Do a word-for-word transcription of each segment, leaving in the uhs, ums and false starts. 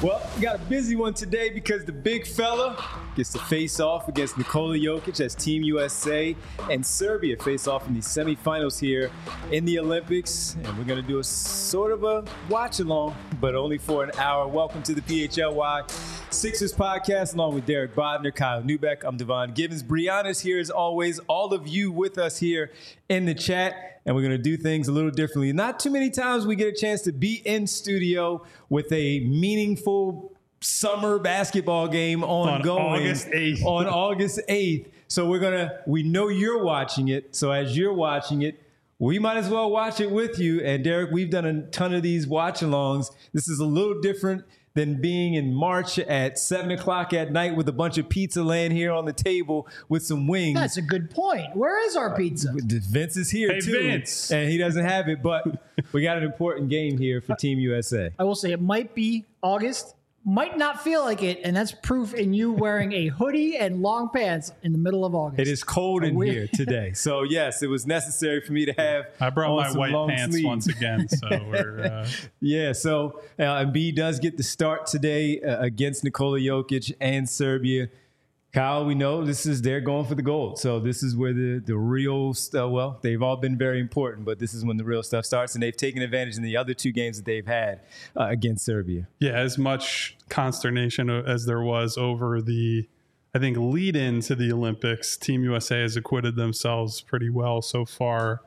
Well, we got a busy one today because the big fella gets to face off against Nikola Jokic as Team U S A and Serbia face off in the semifinals here in the Olympics. And we're going to do a sort of a watch along, but only for an hour. Welcome to the P H L Y Sixers podcast, along with Derek Bodner, Kyle Neubeck. I'm Devon Givens. Brianna's here as always. All of you with us here in the chat. And we're going to do things a little differently. Not too many times we get a chance to be in studio with a meaningful summer basketball game ongoing on August eighth. On August eighth. So we're going to, we know you're watching it. So as you're watching it, we might as well watch it with you. And Derek, we've done a ton of these watch-alongs. This is a little different than being in March at seven o'clock at night with a bunch of pizza laying here on the table with some wings. That's a good point. Where is our pizza? Uh, Vince is here, hey, too. Vince. And he doesn't have it, but we got an important game here for Team U S A. I will say it might be August, might not feel like it, and that's proof in you wearing a hoodie and long pants in the middle of August. It is cold in weird- here today. So, yes, it was necessary for me to have I brought on my some white long pants sleeves. once again, so we're uh... Yeah, so uh, Embiid does get the start today uh, against Nikola Jokic and Serbia. Kyle, we know this is they're going for the gold. So this is where the, the real stuff, well, they've all been very important, but this is when the real stuff starts. And they've taken advantage in the other two games that they've had uh, against Serbia. yeah, as much consternation as there was over the, I think, lead in to the Olympics, Team U S A has acquitted themselves pretty well so far.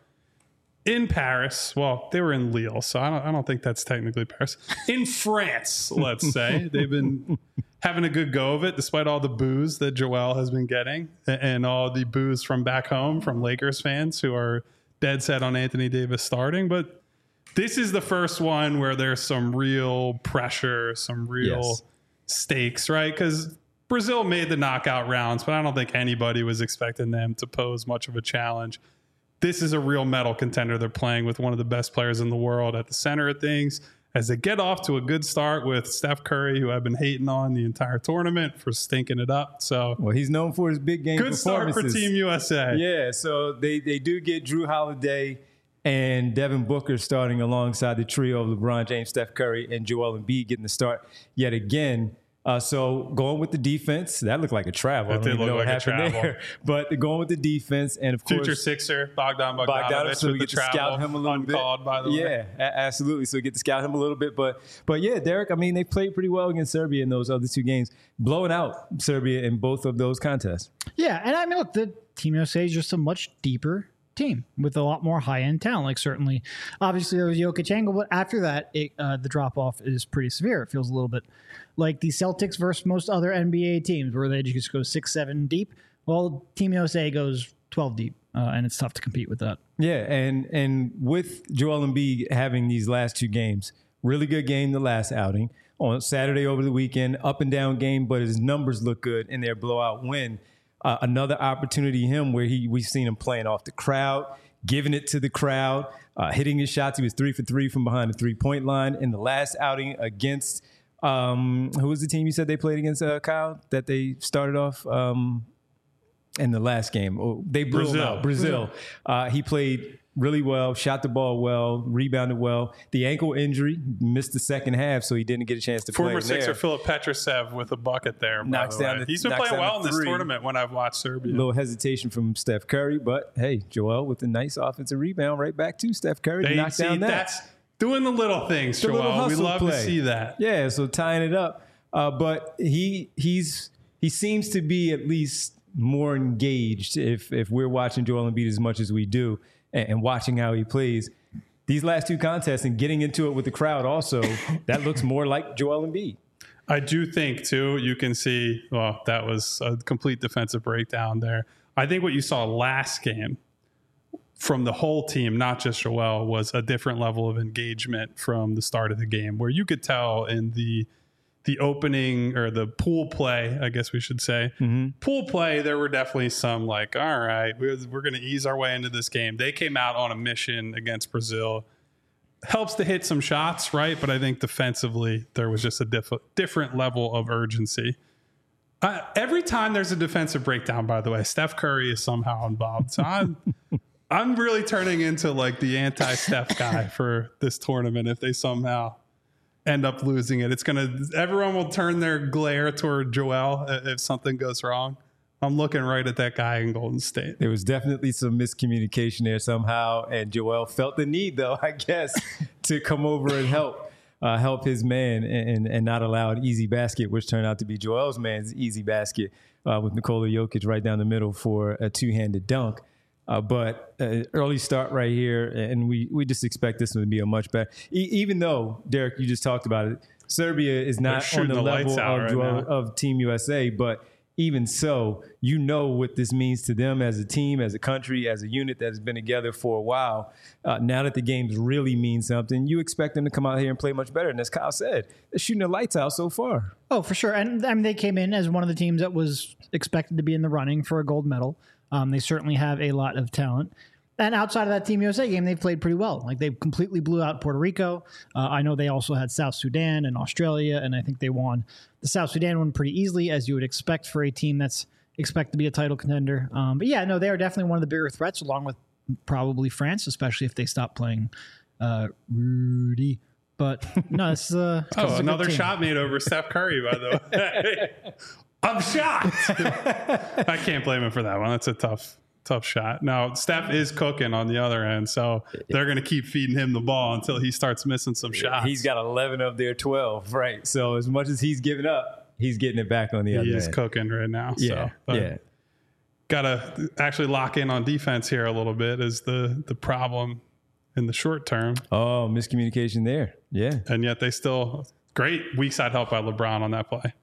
In Paris, well, they were in Lille, so I don't, I don't think that's technically Paris. In France, let's say, they've been having a good go of it, despite all the boos that Joel has been getting and all the boos from back home from Lakers fans who are dead set on Anthony Davis starting. But this is the first one where there's some real pressure, some real Yes. stakes, right? Because Brazil made the knockout rounds, but I don't think anybody was expecting them to pose much of a challenge. This is a real medal contender. They're playing with one of the best players in the world at the center of things. As they get off to a good start with Steph Curry, who I've been hating on the entire tournament for stinking it up. So, Well, he's known for his big game good start performances. for Team U S A. Yeah, so they, they do get Drew Holiday and Devin Booker starting alongside the trio of LeBron James, Steph Curry, and Joel Embiid getting the start yet again. Uh, so going with the defense, that looked like a travel. That I don't did even look know what like a happened travel. there. But going with the defense, and of Future course, Sixer, Bogdan Bogdanovic, Bogdanovic, so we with get the to travel, scout him a little uncalled, bit. by the way. Yeah, a- absolutely. So we get to scout him a little bit. But but yeah, Derek, I mean, they played pretty well against Serbia in those other two games, blowing out Serbia in both of those contests. Yeah, and I mean, look, the Team U S A is just a much deeper team with a lot more high-end talent. Like, certainly, obviously, there was Jokic angle, but after that, it, uh, the drop-off is pretty severe. It feels a little bit like the Celtics versus most other N B A teams, where they just go six, seven deep. Well, Team U S A goes twelve deep, uh, and it's tough to compete with that. Yeah, and and with Joel Embiid having these last two games, really good game the last outing. On Saturday over the weekend, up and down game, but his numbers look good in their blowout win. Uh, another opportunity him where he we've seen him playing off the crowd, giving it to the crowd, uh, hitting his shots. He was three for three from behind the three-point line in the last outing against um, who was the team you said they played against, uh, Kyle, that they started off um, in the last game? Oh, they blew him Brazil. out. Brazil. Uh, he played really well, shot the ball well, rebounded well. The ankle injury, missed the second half, so he didn't get a chance to Former play Sixer there. Philip Petrusev with a bucket there. by Knocks the down way. the- He's been knocks playing down well in the this three. tournament when I've watched Serbia. A little hesitation from Steph Curry, but hey, Joel with a nice offensive rebound right back to Steph Curry to They knock see, down that. that's doing the little things, The Joel. little We hustle love play. to see that. Yeah, so tying it up. Uh, but he he's he seems to be at least more engaged if if we're watching Joel Embiid as much as we do and, and watching how he plays. These last two contests and getting into it with the crowd also, that looks more like Joel Embiid. I do think, too, you can see, well, that was a complete defensive breakdown there. I think what you saw last game from the whole team, not just Joel, was a different level of engagement from the start of the game, where you could tell in the the opening or the pool play, I guess we should say, mm-hmm. pool play, there were definitely some like, all right, we're, we're going to ease our way into this game. They came out on a mission against Brazil. Helps to hit some shots, right? But I think defensively, there was just a diff- different level of urgency. Uh, every time there's a defensive breakdown, by the way, Steph Curry is somehow involved. So I'm, I'm really turning into like the anti-Steph guy for this tournament if they somehow end up losing it. It's going to, everyone will turn their glare toward Joel if something goes wrong. I'm looking right at that guy in Golden State. There was definitely some miscommunication there somehow, and Joel felt the need, though, I guess, to come over and help uh, help his man and, and not allow an easy basket, which turned out to be Joel's man's easy basket uh, with Nikola Jokic right down the middle for a two-handed dunk. Uh, but uh, early start right here, and we, we just expect this one to be a much better. E- even though, Derek, you just talked about it, Serbia is not on the, the level of, right Joel, of Team U S A, but even so, you know what this means to them as a team, as a country, as a unit that has been together for a while. Uh, now that the games really mean something, you expect them to come out here and play much better. And as Kyle said, they're shooting the lights out so far. Oh, for sure. And I mean, they came in as one of the teams that was expected to be in the running for a gold medal. Um, they certainly have a lot of talent. And outside of that Team U S A game, they've played pretty well. Like, they completely blew out Puerto Rico. Uh, I know they also had South Sudan and Australia, and I think they won the South Sudan one pretty easily, as you would expect for a team that's expected to be a title contender. Um, but yeah, no, they are definitely one of the bigger threats, along with probably France, especially if they stop playing uh, Rudy. But no, it's uh, oh, another shot made over Steph Curry, by the way. I'm shocked. I can't blame him for that one. That's a tough. Tough shot. Now, Steph is cooking on the other end, so they're going to keep feeding him the ball until he starts missing some shots. He's got eleven of their twelve, right? So as much as he's giving up, he's getting it back on the he other end. He is cooking right now. Yeah, so, yeah. Got to actually lock in on defense here a little bit is the, the problem in the short term. Oh, miscommunication there. Yeah. And yet they still, great weak side help by LeBron on that play.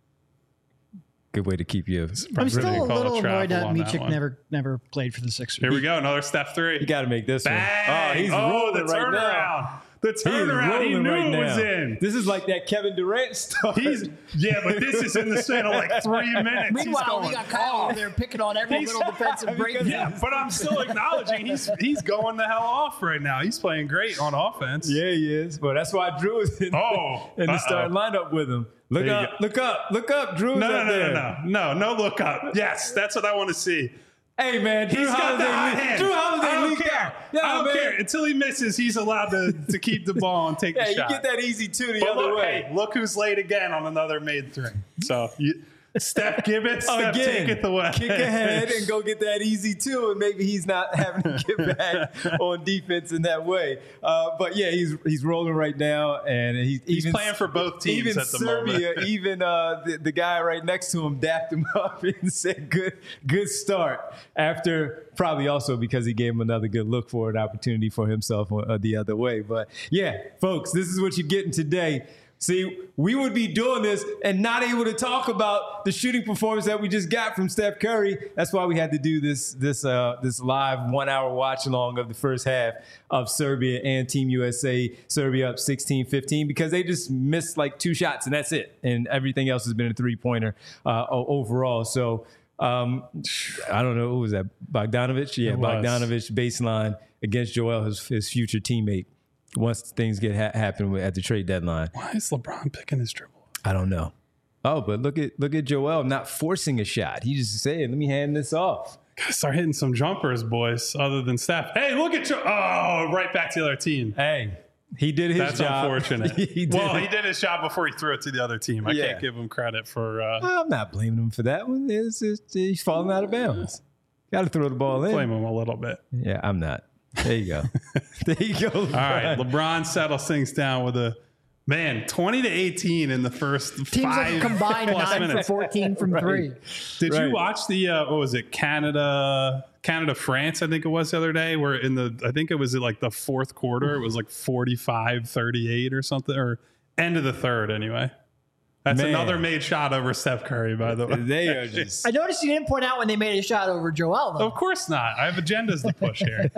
Good way to keep you. I'm still a little annoyed that Micic never never played for the Sixers. Here we go, another Steph three. You got to make this Bang! one. Oh, he's oh, rolling the right turnaround. now. The turnaround. He, he knew right it was in. This is like that Kevin Durant stuff. He's yeah, but this is in the span of like three minutes. Meanwhile, we got Kyle over there picking on every he's, little defensive break. Yeah, but I'm still acknowledging he's he's going the hell off right now. He's playing great on offense. Yeah, he is. Well, that's why Drew is in, oh, in the starting lineup with him. Look up, look up, look up. Drew's no, no, up no, there. no, no, no, no, look up. Yes, that's what I want to see. Hey, man, Drew he's got the hot Holiday, hand. Drew Holiday I don't leaked care. out. Yeah, I don't man. care. Until he misses, he's allowed to, to keep the ball and take yeah, the shot. you get that easy two the but other look, way. Hey, look who's late again on another made three. So you, Steph give it, Steph Again, take it away. Kick ahead and go get that easy two, and maybe he's not having to get back on defense in that way. Uh, but yeah, he's he's rolling right now, and he, he's even, playing for both teams even at the Serbia, moment. even uh, the, the guy right next to him dapped him up and said, "Good, good start." After probably also because he gave him another good look for an opportunity for himself uh, the other way. But yeah, folks, this is what you're getting today. See, we would be doing this and not able to talk about the shooting performance that we just got from Steph Curry. That's why we had to do this this uh, this live one-hour watch-along of the first half of Serbia and Team U S A. Serbia up sixteen fifteen because they just missed like two shots, and that's it. And everything else has been a three-pointer uh, overall. So um, I don't know. Who was that? Bogdanovic? Yeah, Bogdanovic baseline against Joel, his, his future teammate. Once things get ha- happen at the trade deadline. Why is LeBron picking his dribble? I don't know. Oh, but look at look at Joel not forcing a shot. He just saying, "Let me hand this off." Gotta start hitting some jumpers, boys. Other than Steph. Hey, look at you! Oh, right back to the other team. Hey, he did his That's job. That's unfortunate. he did. Well, he did his job before he threw it to the other team. I Yeah. can't give him credit for. Uh, I'm not blaming him for that one. It's just, he's falling out of bounds. Got to throw the ball in. blame him a little bit. Yeah, I'm not. There you go. there you go. LeBron. All right, LeBron settles things down with a man twenty to eighteen in the first Teams five like combined plus nine minutes. for fourteen from Right. three. Did Right. you watch the uh, what was it Canada Canada France I think it was the other day where in the I think it was like the fourth quarter it was like forty-five thirty-eight or something or end of the third anyway. That's Man. another made shot over Steph Curry, by the way. They are just. I noticed you didn't point out when they made a shot over Joel, though. Of course not. I have agendas to push here.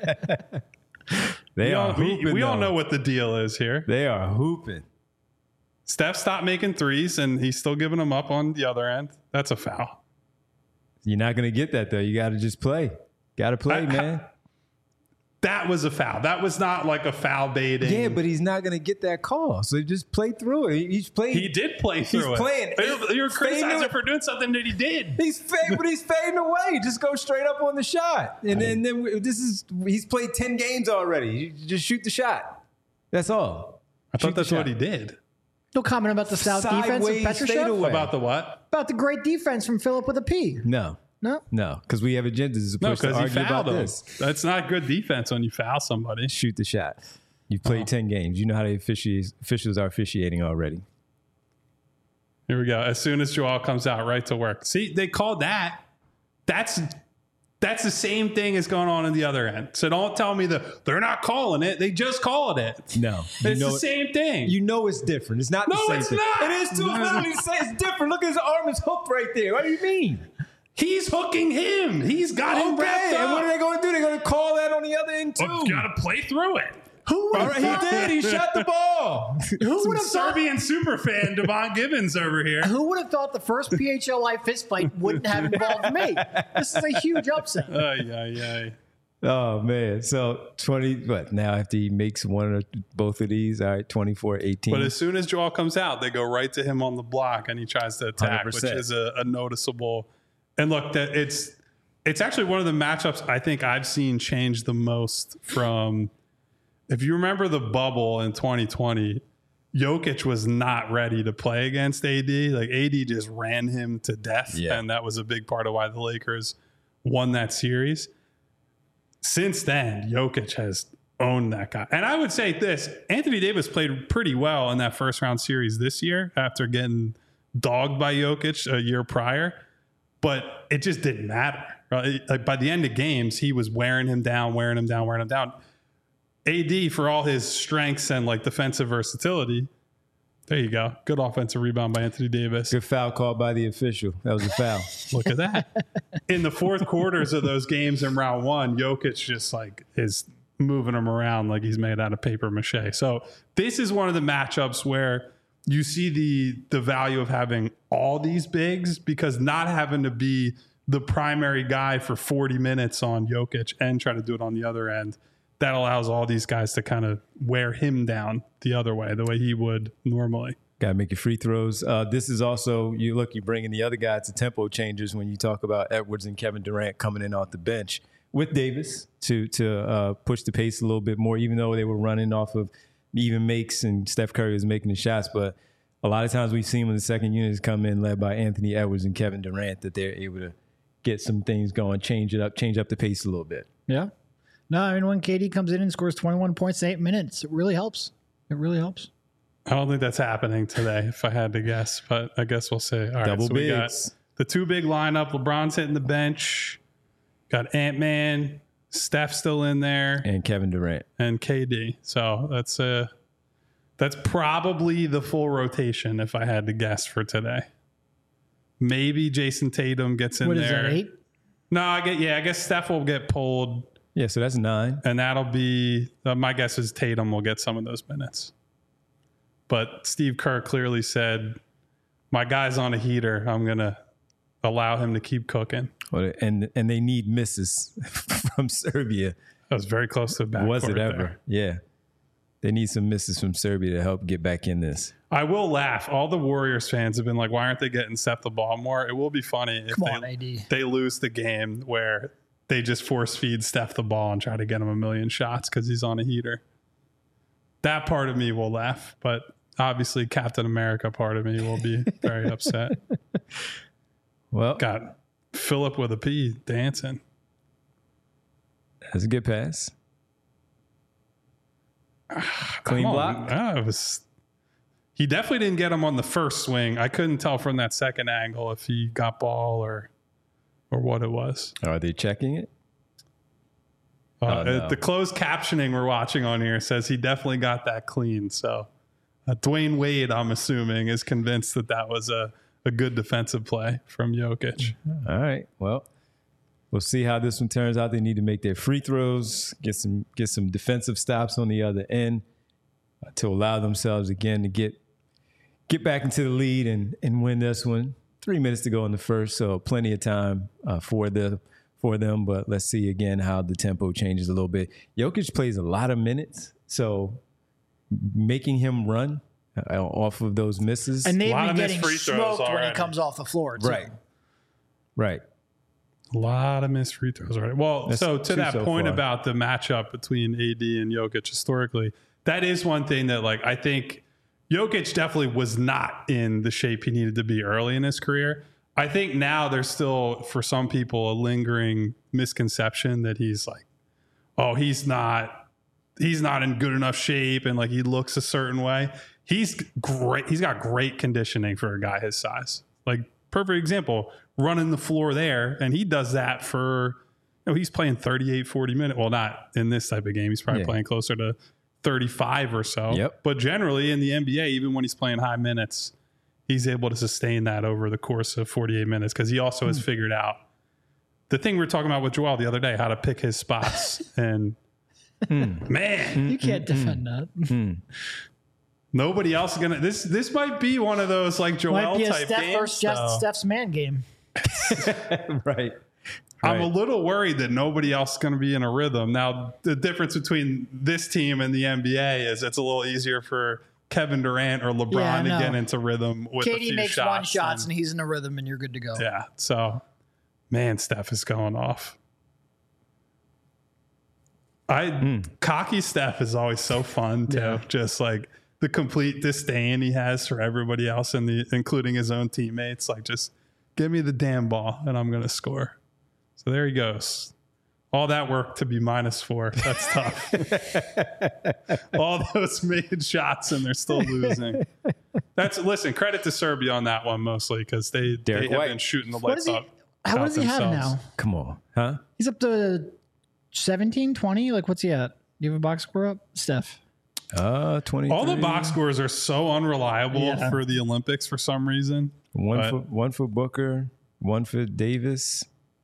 They we are all, we, hooping. we all though. know what the deal is here. They are hooping. Steph stopped making threes, and he's still giving them up on the other end. That's a foul. You're not going to get that though. You got to just play. Got to play, I- man. That was a foul. That was not like a foul baiting. Yeah, but he's not going to get that call. So just play through it. He- He's playing. he did play through it. playing You're, you're He's criticizing fading him for doing something that he did. He's fading, but he's fading away. Just go straight up on the shot, and then, then we- this is he's played ten games already. You just shoot the shot. That's all. I thought Shoot the that's what shot. he did. No comment about the stout defense of Sideways Petrushев? fadeaway. About the what? About the great defense from Philip with a P. No, No? no, because we have agendas as No, opposed to because he argue fouled about him. this. That's not good defense when you foul somebody. Shoot the shot. You've played Oh. ten games. You know how the officials officials are officiating already. Here we go. As soon as Joel comes out, right to work. See, they called that. That's that's the same thing as going on in the other end. So don't tell me that they're not calling it. They just called it. No, you It's know the it- same thing. You know it's different. It's not the No, same it's thing. not. It is too. Literally say it's different. Look, his arm is hooked right there. What do you mean? He's hooking him. He's got him wrapped Okay, up. and what are they going to do? They're going to call that on the other end too. Oh, you got to play through it. Who would All have right, he did. He shot the ball. Who would have thought? Serbian superfan Devon Gibbons over here. Who would have thought the first P H L I fist fight wouldn't have involved me? This is a huge upset. Ay, ay, ay. Oh man! So twenty. What now? After he makes one or both of these, all right, twenty-four eighteen. But as soon as Joel comes out, they go right to him on the block, and he tries to attack, one hundred percent. which is a, a noticeable. And look, that it's it's actually one of the matchups I think I've seen change the most from. If you remember the bubble in twenty twenty, Jokic was not ready to play against A D. Like A D just ran him to death, Yeah. and that was a big part of why the Lakers won that series. Since then, Jokic has owned that guy. And I would say this, Anthony Davis played pretty well in that first round series this year after getting dogged by Jokic a year prior, but it just didn't matter. Right? Like by the end of games, he was wearing him down, wearing him down, wearing him down. A D, for all his strengths and like defensive versatility, there you go. Good offensive rebound by Anthony Davis. Good foul called by the official. That was a foul. Look at that. In the fourth quarters of those games in round one, Jokic just like is moving him around like he's made out of paper mache. So this is one of the matchups where you see the the value of having all these bigs, because not having to be the primary guy for forty minutes on Jokic and try to do it on the other end, that allows all these guys to kind of wear him down the other way, the way he would normally. Got to make your free throws. Uh, this is also, you look, you bring in the other guys to tempo changers when you talk about Edwards and Kevin Durant coming in off the bench with Davis to to uh, push the pace a little bit more, even though they were running off of even makes and Steph Curry was making the shots. But a lot of times we've seen when the second units come in led by Anthony Edwards and Kevin Durant that they're able to get some things going, change it up, change up the pace a little bit. Yeah. No, I mean, when K D comes in and scores twenty-one points in eight minutes, it really helps. It really helps. I don't think that's happening today, if I had to guess, but I guess we'll see. All right, Double so we got bigs. the two big lineup. LeBron's hitting the bench. Got Ant-Man, Steph still in there, And Kevin Durant. and K D. So that's uh that's probably the full rotation, if I had to guess, for today. Maybe Jason Tatum gets in What is there. that, eight? No, I get yeah. I guess Steph will get pulled, Yeah, so that's nine. and that'll be uh, my guess is Tatum will get some of those minutes. But Steve Kerr clearly said, "My guy's on a heater. I'm gonna allow him to keep cooking." Well, and and they need misses from Serbia. That was very close to the backcourt Was it ever? there. Yeah. They need some misses from Serbia to help get back in this. I will laugh. All the Warriors fans have been like, "Why aren't they getting Steph the ball more?" It will be funny if Come they, on, A D. they lose the game where they just force feed Steph the ball and try to get him a million shots because he's on a heater. That part of me will laugh, but obviously Captain America part of me will be very upset. Well, Got Philip with a P dancing. that's a good pass. Clean Come block. on. Ah, it was. He definitely didn't get him on the first swing. I couldn't tell from that second angle if he got ball or or what it was. Are they checking it? Uh, Oh, no. uh, The closed captioning we're watching on here says he definitely got that clean. So uh, Dwayne Wade, I'm assuming, is convinced that that was a, a good defensive play from Jokic. All right. Well, we'll see how this one turns out. They need to make their free throws, get some get some defensive stops on the other end uh, to allow themselves again to get get back into the lead and and win this one. Three minutes to go in the first, so plenty of time uh, for the for them. But let's see again how the tempo changes a little bit. Jokic plays a lot of minutes, so making him run uh, off of those misses. And they've lot been of missed getting free throws smoked when already. he comes off the floor. too. right, right. A lot of missed free throws already. Well, That's so to two that so point far. about the matchup between A D and Jokic historically, that is one thing that, like, I think Jokic definitely was not in the shape he needed to be early in his career. I think now there's still, for some people, a lingering misconception that he's like, oh, he's not, he's not in good enough shape, and like he looks a certain way. He's great. He's got great conditioning for a guy his size. Like, perfect example, running the floor there, and he does that for, you know, he's playing thirty-eight, forty minutes. Well, not in this type of game. He's probably yeah. playing closer to thirty-five or so. Yep. But generally in the N B A, even when he's playing high minutes, he's able to sustain that over the course of forty-eight minutes because he also has figured out the thing we were talking about with Joel the other day, how to pick his spots. And man, you can't defend that. Nobody else is gonna. This this might be one of those like Joel might be a type Steph games. versus just Steph's man game. Right. I'm right. a little worried that nobody else is going to be in a rhythm. Now, the difference between this team and the N B A is it's a little easier for Kevin Durant or LeBron Yeah, to no. get into rhythm with a K D few makes shots. one shots and, and he's in a rhythm, and you're good to go. yeah, so man, Steph is going off. I mm. cocky Steph is always so fun too. Yeah. Just like the complete disdain he has for everybody else, in the including his own teammates. Like, just give me the damn ball and I'm going to score. So there he goes. All that work to be minus four. That's tough. All those made shots and they're still losing. That's listen. Credit to Serbia on that one mostly because they, they have White. been shooting the What lights does he, up. how what does he have now? Come on, huh? He's up to seventeen, twenty. Like, what's he at? Do you have a box score up, Steph? Uh, twenty. All the box scores are so unreliable Yeah. for the Olympics for some reason. One but, for one for Booker, one for Davis.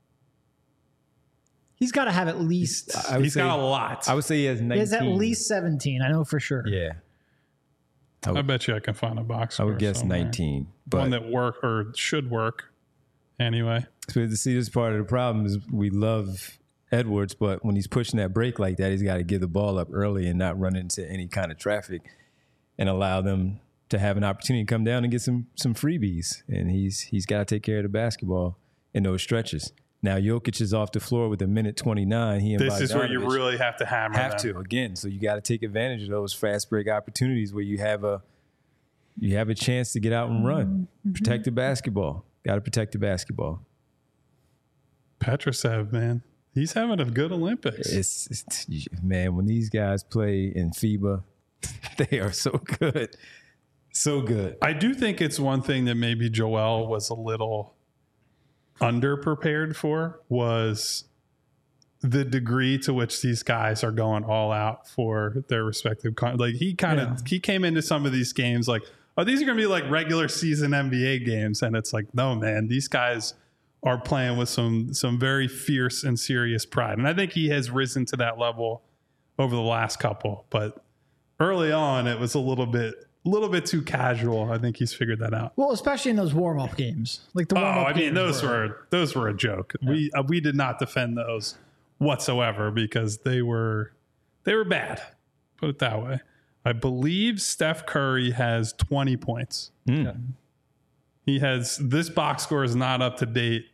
He's got to have at least. I would he's say, got a lot. I would say he has nineteen. He has at least seventeen. I know for sure. Yeah. I, I would, bet you I can find a box score I would guess somewhere. nineteen. But One that work or should work anyway. So to see this part of the problem is we love Edwards, but when he's pushing that break like that, he's got to give the ball up early and not run into any kind of traffic and allow them to have an opportunity to come down and get some some freebies. And he's he's got to take care of the basketball in those stretches. Now Jokic is off the floor with a minute twenty-nine. He and This is where you Bogdanovic really have to hammer have them. to again. So you got to take advantage of those fast break opportunities where you have a you have a chance to get out and run, mm-hmm. protect the basketball. Got to protect the basketball. Petrosev, man, he's having a good Olympics. It's, it's man, when these guys play in FIBA, they are so good, so good. I do think it's one thing that maybe Joel was a little underprepared for was the degree to which these guys are going all out for their respective con- like he kind of yeah. he came into some of these games like, oh, these are gonna be like regular season N B A games, and it's like, no, man, these guys are playing with some some very fierce and serious pride, and I think he has risen to that level over the last couple. But early on, it was a little bit. A little bit too casual. I think he's figured that out. Well, especially in those warm up games, like the warm up. Oh, I mean, games those were, were those were a joke. Yeah. We uh, we did not defend those whatsoever because they were they were bad. Put it that way. I believe Steph Curry has twenty points. Mm. Yeah. He has this box score is not up to date.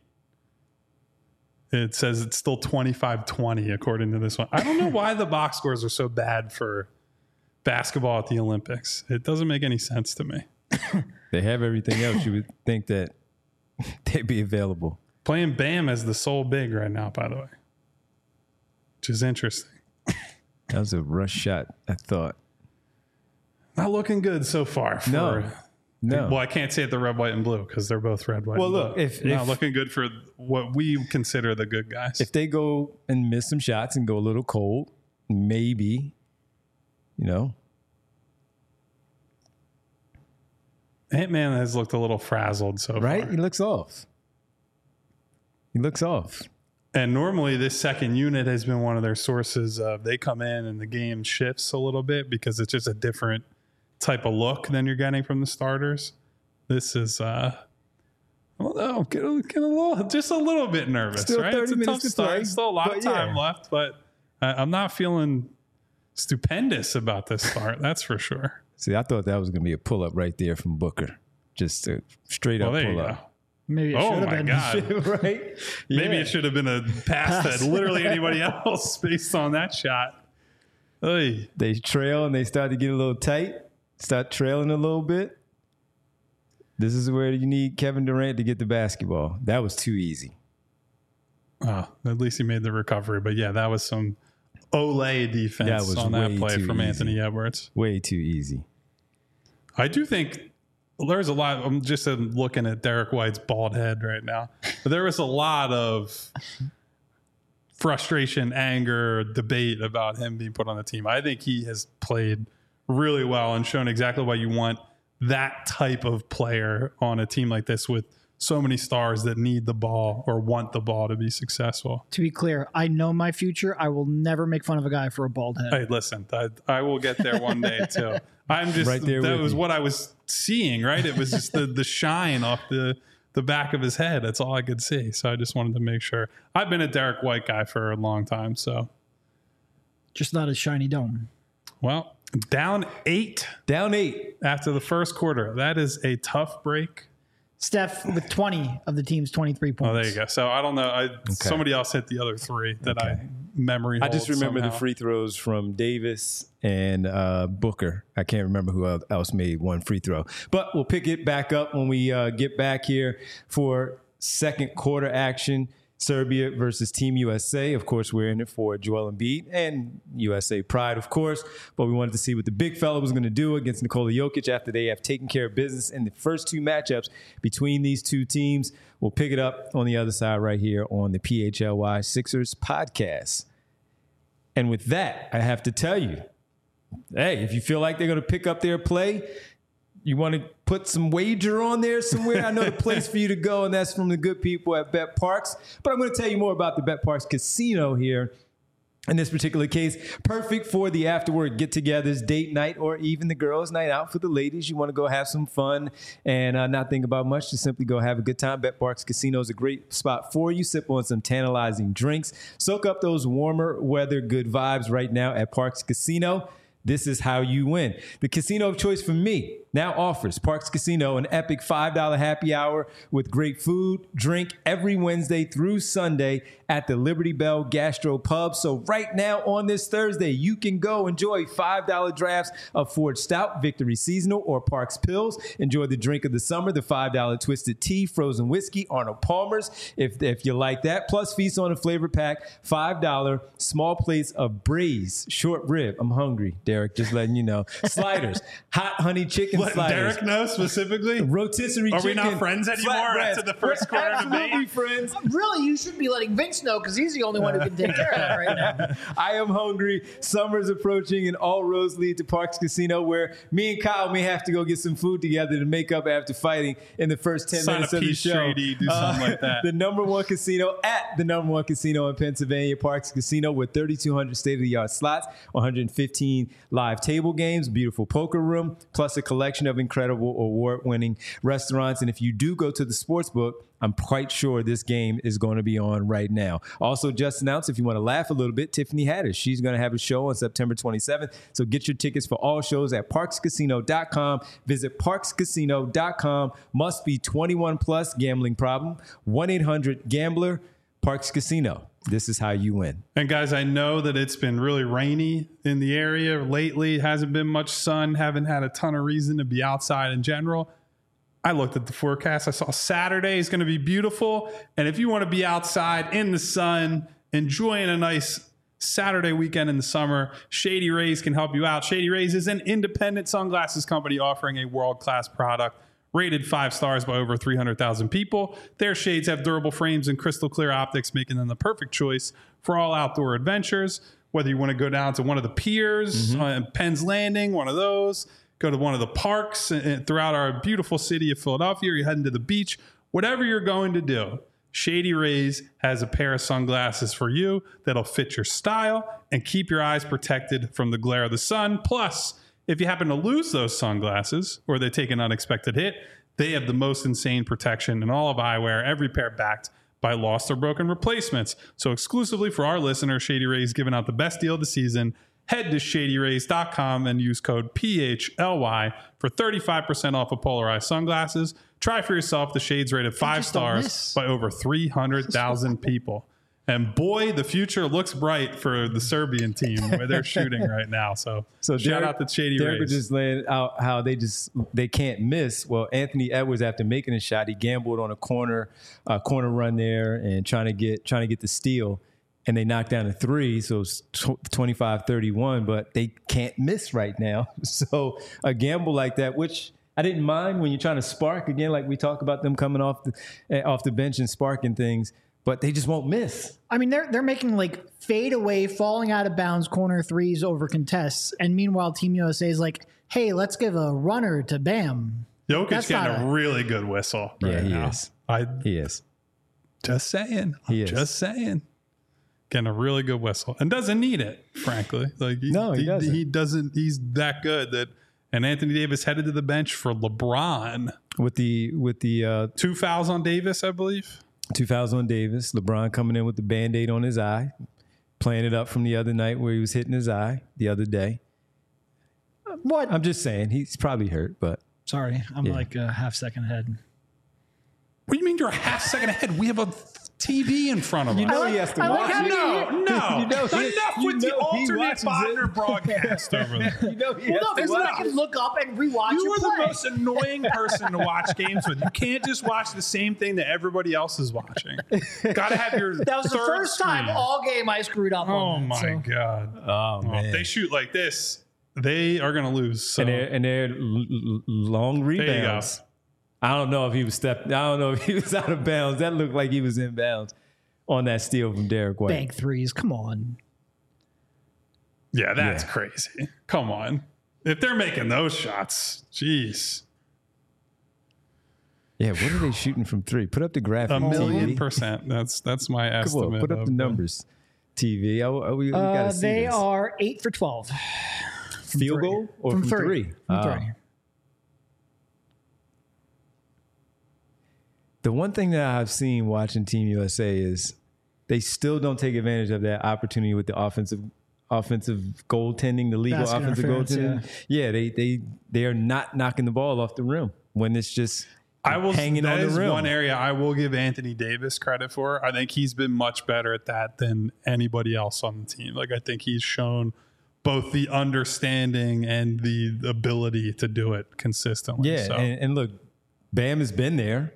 It says it's still twenty-five twenty according to this one. I don't know why the box scores are so bad for basketball at the Olympics. It doesn't make any sense to me. They have everything else. You would think that they'd be available. Playing Bam as the sole big right now, by the way, which is interesting. That was a rush shot, I thought. Not looking good so far. For, no. No. Well, I can't say it the red, white, and blue because they're both red, white, well, and look, blue. if, Not if looking good for what we consider the good guys. If they go and miss some shots and go a little cold, maybe, you know. Ant-Man has looked a little frazzled so right? far. He looks off. He looks off. And normally this second unit has been one of their sources of they come in and the game shifts a little bit because it's just a different type of look than you're getting from the starters. This is, uh, well, no, get a, get a little, just a little bit nervous, Still right? thirty It's a tough minutes to start. play, Still a lot but of time yeah. left, but uh, I'm not feeling stupendous about this start. That's for sure. See, I thought that was going to be a pull-up right there from Booker. Just a straight Well, up there you pull-up. go. Maybe it Oh should have my been. God. right? Maybe Yeah. it should have been a pass Pass. to literally anybody else based on that shot. Oy. They trail and they start to get a little tight, start trailing a little bit. This is where you need Kevin Durant to get the basketball. That was too easy. Oh, at least he made the recovery. But yeah, that was some Olay defense That was on that way play too from easy. Anthony Edwards. Way too easy. I do think there's a lot. I'm just looking at Derek White's bald head right now. But there was a lot of frustration, anger, debate about him being put on the team. I think he has played really well and shown exactly why you want that type of player on a team like this with so many stars that need the ball or want the ball to be successful. To be clear, I know my future. I will never make fun of a guy for a bald head. Hey, listen, I, I will get there one day too. I'm just Right there that with was you. what I was seeing, right? It was just the the shine off the the back of his head. That's all I could see. So I just wanted to make sure. I've been a Derek White guy for a long time. So, Just not a shiny dome. well, down eight Down eight. after the first quarter. That is a tough break. Steph with twenty of the team's twenty-three points. Oh, there you go. So I don't know. I, Somebody else hit the other three that I memory. I just hold remember somehow. the free throws from Davis and uh, Booker. I can't remember who else made one free throw. But we'll pick it back up when we uh, get back here for second quarter action. Serbia versus Team U S A. Of course, we're in it for Joel Embiid and U S A pride, of course. But we wanted to see what the big fella was going to do against Nikola Jokic after they have taken care of business in the first two matchups between these two teams. We'll pick it up on the other side right here on the P H L Y Sixers podcast. And with that, I have to tell you, hey, if you feel like they're going to pick up their play, you want to put some wager on there somewhere, I know the place for you to go, and that's from the good people at Bet Parks. But I'm going to tell you more about the Bet Parks Casino here. In this particular case, perfect for the afterward get-togethers, date night, or even the girls' night out for the ladies. You want to go have some fun and uh, not think about much. Just simply go have a good time. Bet Parks Casino is a great spot for you. Sip on some tantalizing drinks. Soak up those warmer weather good vibes right now at Parks Casino. This is how you win. The casino of choice for me now offers Parks Casino an epic five dollar happy hour with great food, drink every Wednesday through Sunday at the Liberty Bell Gastro Pub. So right now on this Thursday, you can go enjoy five dollar drafts of Ford Stout, Victory Seasonal, or Parks Pills. Enjoy the drink of the summer, the five dollar Twisted Tea, Frozen Whiskey, Arnold Palmer's, if, if you like that. Plus, feast on a flavor pack, five dollar small plates of braised short rib. I'm hungry, Derek, just letting you know. Sliders, hot honey chicken Let sliders. Derek know specifically. Rotisserie Are we chicken. not friends anymore flatbreads. after the first We're quarter absolutely debate? friends. Really, you should be letting Vince know because he's the only one who can take care of that right now. I am hungry. Summer's approaching, and all roads lead to Parks Casino, where me and Kyle may have to go get some food together to make up after fighting in the first ten Sign minutes a of the peace show. treaty, do something like that. The number one casino at the number one casino in Pennsylvania, Parks Casino, with thirty-two hundred state-of-the-art slots, one hundred fifteen live table games, beautiful poker room, plus a collection of incredible award-winning restaurants. And if you do go to the sports book, I'm quite sure this game is going to be on right now. Also, just announced, if you want to laugh a little bit, Tiffany Haddish. She's going to have a show on September twenty-seventh. So get your tickets for all shows at parks casino dot com. Visit parks casino dot com. Must be twenty-one plus. Gambling problem. one eight hundred gambler. Parks Casino. This is how you win. And guys, I know that it's been really rainy in the area lately. Hasn't been much sun. Haven't had a ton of reason to be outside in general. I looked at the forecast. I saw Saturday is going to be beautiful. And if you want to be outside in the sun, enjoying a nice Saturday weekend in the summer, Shady Rays can help you out. Shady Rays is an independent sunglasses company offering a world-class product rated five stars by over three hundred thousand people. Their shades have durable frames and crystal clear optics, making them the perfect choice for all outdoor adventures. Whether you want to go down to one of the piers, mm-hmm. uh, Penn's Landing, one of those, go to one of the parks uh, throughout our beautiful city of Philadelphia, or you're heading to the beach, whatever you're going to do, Shady Rays has a pair of sunglasses for you that'll fit your style and keep your eyes protected from the glare of the sun. Plus, if you happen to lose those sunglasses or they take an unexpected hit, they have the most insane protection in all of eyewear, every pair backed by lost or broken replacements. So exclusively for our listeners, Shady Rays giving out the best deal of the season. Head to shady rays dot com and use code P H L Y for thirty-five percent off of polarized sunglasses. Try for yourself the shades rated five just don't stars miss. by over three hundred thousand people. And boy, the future looks bright for the Serbian team where they're shooting right now. So, So shout Derek, out to Shady Derek was Rays. just laying out how they just they can't miss. Well, Anthony Edwards, after making a shot, he gambled on a corner uh, corner run there and trying to get trying to get the steal, and they knocked down a three, so it's twenty-five thirty-one. But they can't miss right now. So a gamble like that, which I didn't mind when you're trying to spark again, like we talk about them coming off the off the bench and sparking things, but they just won't miss. I mean, they're they're making like fade away, falling out of bounds corner threes over contests, and meanwhile, Team U S A is like, "Hey, let's give a runner to Bam." Jokic That's getting not a a- really good whistle. Yeah, right he now. is. I He is. just saying. He I'm is. just saying. Getting a really good whistle and doesn't need it, frankly. Like he, No, he doesn't. He doesn't. He's that good that. And Anthony Davis headed to the bench for LeBron. With the with the uh, Two fouls on Davis, I believe. two thousand on Davis. LeBron coming in with the Band-Aid on his eye, playing it up from the other night where he was hitting his eye the other day. What? I'm just saying, he's probably hurt, but Sorry, I'm Yeah. like a half second ahead. What do you mean you're a half second ahead? We have a T V in front of us. you know like- he has to I like watch how it. you- No, no. You know he- Enough you with the know he alternate watches Bodner it. broadcast over there. You know he Well, has no, to because then I watch can it. look up and rewatch You your are the play. most annoying person to watch games with. You can't just watch the same thing that everybody else is watching. Got to have your That was the third first time screen. all game I screwed up Oh on that, my so. god! Oh Well, man, if they shoot like this, they are going to lose. So. and they're and they're l- l- long you rebounds. I don't know if he was stepped. I don't know if he was out of bounds. That looked like he was in bounds on that steal from Derek White. Bank threes, come on. yeah, that's Yeah. crazy. Come on, if they're making those shots, jeez, Yeah, what are they shooting from three? Put up the graphic. a million T V. percent. That's that's my Come estimate. on, put up of the them. numbers. T V. I, I, we, we Uh, gotta see they this. are eight for twelve. Field three. goal or From from, three. three? From Ah. three. The one thing that I've seen watching Team U S A is they still don't take advantage of that opportunity with the offensive offensive goaltending, the legal Basket offensive interference, goaltending. Yeah. they they they are not knocking the ball off the rim when it's just I will. hanging That on the is rim. one area I will give Anthony Davis credit for. I think he's been much better at that than anybody else on the team. Like I think he's shown both the understanding and the ability to do it consistently. Yeah, So. and, and look, Bam has been there.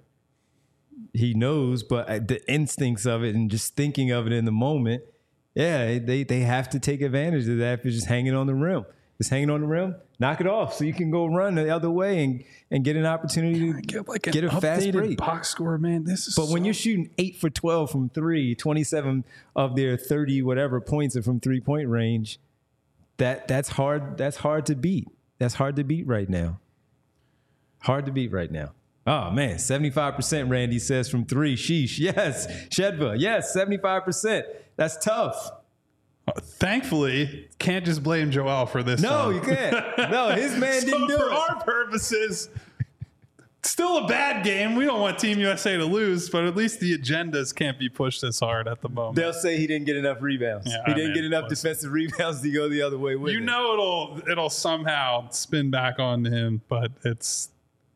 He knows, but uh, the instincts of it and just thinking of it in the moment, yeah, they they have to take advantage of that if you're just hanging on the rim. Just hanging on the rim, knock it off so you can go run the other way and, and get an opportunity to Get like get an a fast updated break. box score, man. This is But when so- you're shooting eight for twelve from three, twenty-seven of their thirty whatever points are from three point range, that that's hard. That's hard to beat. That's hard to beat right now. Hard to beat right now. Oh man, seventy-five percent Randy says from three. Sheesh. Yes. Shedva. Yes, seventy-five percent. That's tough. thankfully can't just blame Joel for this. No, one. you can't. No, his man So didn't do for it. our purposes, still a bad game. We don't want Team U S A to lose, but at least the agendas can't be pushed as hard at the moment. They'll say he didn't get enough rebounds. Yeah, he I didn't mean, get enough listen. defensive rebounds to go the other way with You it. know it'll it'll somehow spin back on him, but it's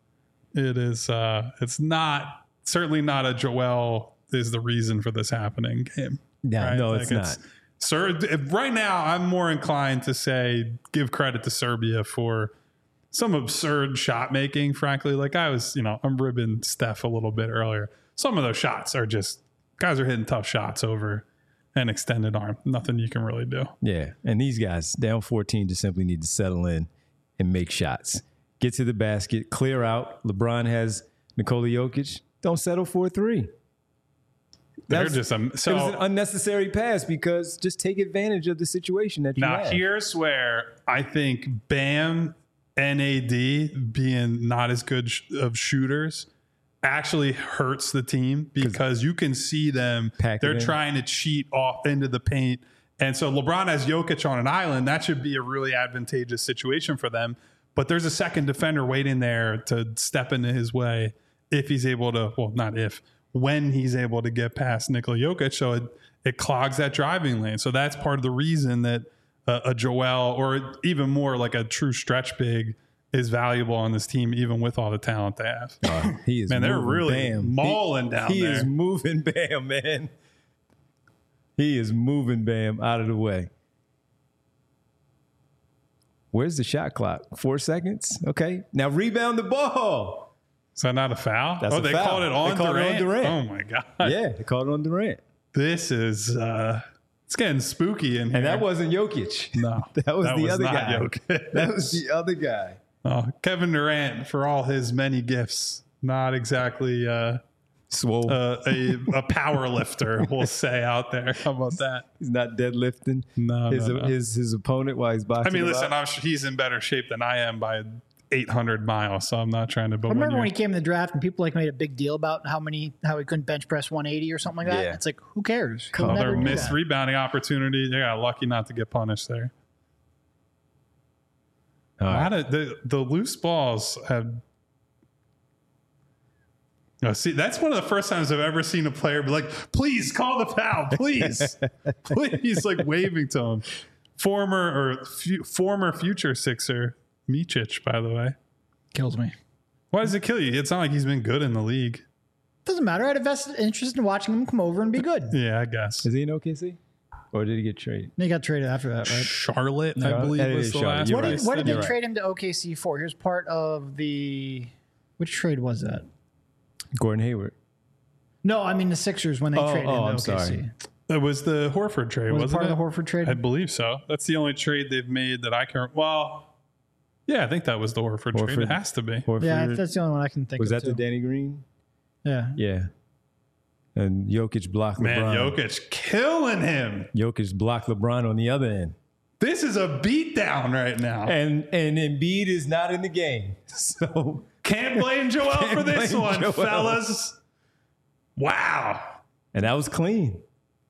it is uh it's not certainly not a Joel is the reason for this happening game. No, no, it's not. Sir, if, right now I'm more inclined to say give credit to Serbia for some absurd shot making. Frankly, like I was, you know, I'm ribbing Steph a little bit earlier. Some of those shots are just guys are hitting tough shots over an extended arm. Nothing you can really do. Yeah, and these guys down fourteen just simply need to settle in and make shots. Get to the basket, clear out. LeBron has Nikola Jokic. Don't settle for a three. They're That's- just um, it was so an unnecessary pass because just take advantage of the situation that you now have. here's where I think Bam and A D being not as good sh- of shooters actually hurts the team because you can see them. Pack it They're in. trying to cheat off into the paint. And so LeBron has Jokic on an island. That should be a really advantageous situation for them. But there's a second defender waiting there to step into his way if he's able to, well, not if, when he's able to get past Nikola Jokic. So it, it clogs that driving lane. So that's part of the reason that uh, a Joel or even more like a true stretch big is valuable on this team, even with all the talent they have. Uh, he is Man, they're moving really Bam. mauling he, down he there. is moving Bam, man. He is moving Bam out of the way. Where's the shot clock? Four seconds? Okay. Now rebound the ball. Is that not a foul? That's oh, a they foul. called it on They called it on Durant? Durant. Oh, my God. Yeah, they called it on Durant. This is, uh, it's getting spooky in here. And that wasn't Jokic. No. That was that the was other not guy. Jokic. That was the other guy. Oh, Kevin Durant, for all his many gifts, not exactly uh, Swole. uh, a, a power lifter, we'll say out there. How about that? He's not deadlifting No, his, no, no. his his opponent while he's boxing. I mean, him listen, out. I'm sure he's in better shape than I am by eight hundred miles, so I'm not trying to. But I remember when, when he you're- came in the draft and people like made a big deal about how many how he couldn't bench press one eighty or something like that. Yeah. It's like, who cares? He'll another never do missed that. rebounding opportunity, they got lucky not to get punished there. All A right. lot of the, the loose balls have. No, see, that's one of the first times I've ever seen a player be like, please call the foul, please. Please, like waving to him. Former or fu- former future Sixer, Micic, by the way. Kills me. Why does it kill you? It's not like he's been good in the league. Doesn't matter. I had a vested interest in watching him come over and be good. Yeah, I guess. Is he in O K C? Or did he get traded? They got traded after that, right? Charlotte, No, I believe, that was is the Charlotte. last You're What one. did, right. what did they You're right. trade him to O K C for? Here's part of the. Which trade was that? Gordon Hayward. No, I mean the Sixers when they Oh, traded oh, him to I'm O K C. sorry. It was the Horford trade, Was it wasn't part it? of the Horford trade? I believe so. That's the only trade they've made that I can. Well, yeah, I think that was the Horford, trade. Horford. It has to be. Horford. Yeah, that's the only one I can think was of. that the too. Danny Green? Yeah. Yeah. And Jokic blocked Man, LeBron. Jokic killing him. Jokic blocked LeBron on the other end. This is a beatdown right now. And and Embiid is not in the game. So Can't blame Joel Can't for this blame one, Joel. fellas. Wow. and that was clean.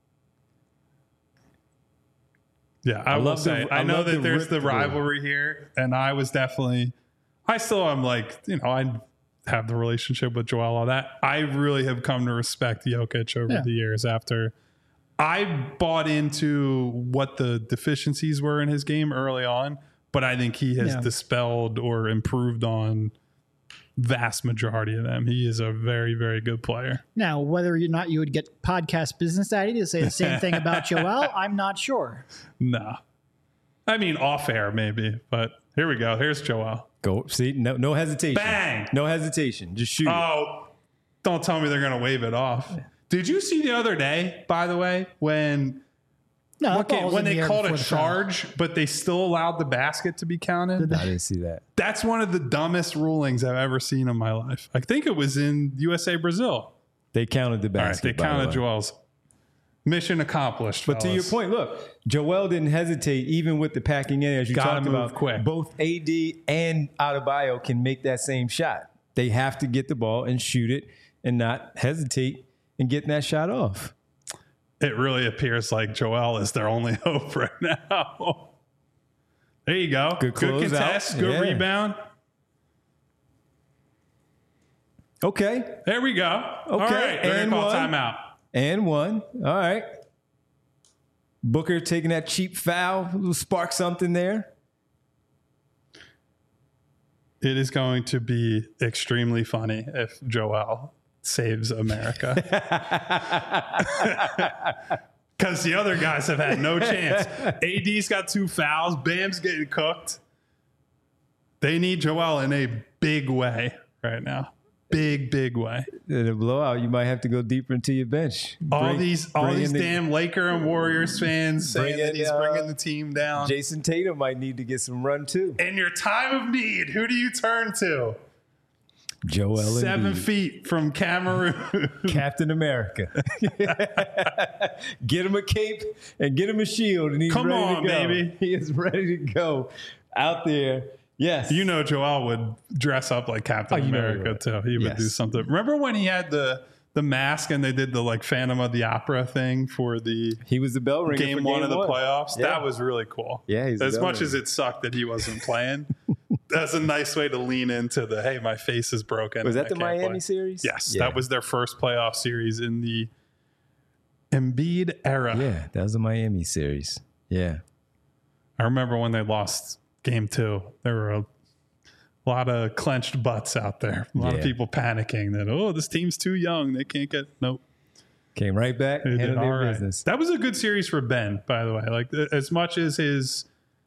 Yeah, I, I will love the- say, I, I know love that the there's rip the through. rivalry here, and I was definitely, I still am like, you know, I have the relationship with Joel, all that. I really have come to respect Jokic over Yeah. the years after I bought into what the deficiencies were in his game early on, but I think he has Yeah. dispelled or improved on vast majority of them. He is a very, very good player. Now, whether or not you would get podcast business daddy to say the same thing about Joel, I'm not sure. No. I mean, off air maybe, but here we go. Here's Joel. Go see, no no hesitation. Bang! No hesitation. Just shoot. it. Oh, don't tell me they're going to wave it off. Did you see the other day, by the way, when No, that okay, ball was when in they the air called a before the foul. charge, but they still allowed the basket to be counted? I didn't see that. That's one of the dumbest rulings I've ever seen in my life. I think it was in U S A Brazil. They counted the All right, basket. they by the counted way. Joel's. Mission accomplished. But to your fellas. point, look, Joel didn't hesitate even with the packing in, as you Gotta talked move about. quick. Both A D and Adebayo can make that same shot. They have to get the ball and shoot it and not hesitate in getting that shot off. It really appears like Joel is their only hope right now. There you go. Good Good close contest. out. Good Yeah. rebound. Okay. There we go. All right. They're and going to call one. timeout. And one. All right. Booker taking that cheap foul. Will spark something there. It is going to be extremely funny if Joel saves America. Because the other guys have had no chance. A D's got two fouls. Bam's getting cooked. They need Joel in a big way right now. Big, big way. In a blowout, you might have to go deeper into your bench. All Bring- these, all bring these in the- damn Laker and Warriors fans saying Bring that in, he's uh, bringing the team down. Jason Tatum might need to get some run too. In your time of need, who do you turn to? Joel Seven Embiid. feet from Cameroon. Captain America. Get him a cape and get him a shield, and he's Come ready on, to go. baby. He is ready to go out there. Yes. You know Joel would dress up like Captain Oh, you know he America would. too. He would Yes. do something. Remember when he had the the mask and they did the like Phantom of the Opera thing for the he was the bell ringer game for one game of the one. playoffs? Yeah. That was really cool. Yeah, he's the as bell much as ringer. it sucked that he wasn't playing. That's a nice way to lean into the hey, my face is broken. Was and that the I can't Miami play. series? Yes, Yeah. that was their first playoff series in the Embiid era. Yeah, that was the Miami series. Yeah. I remember when they lost game two. There were a lot of clenched butts out there. A lot Yeah. of people panicking that, oh, this team's too young. They can't get, nope. Came right back and handled their right. business. That was a good series for Ben, by the way. Like, as much as his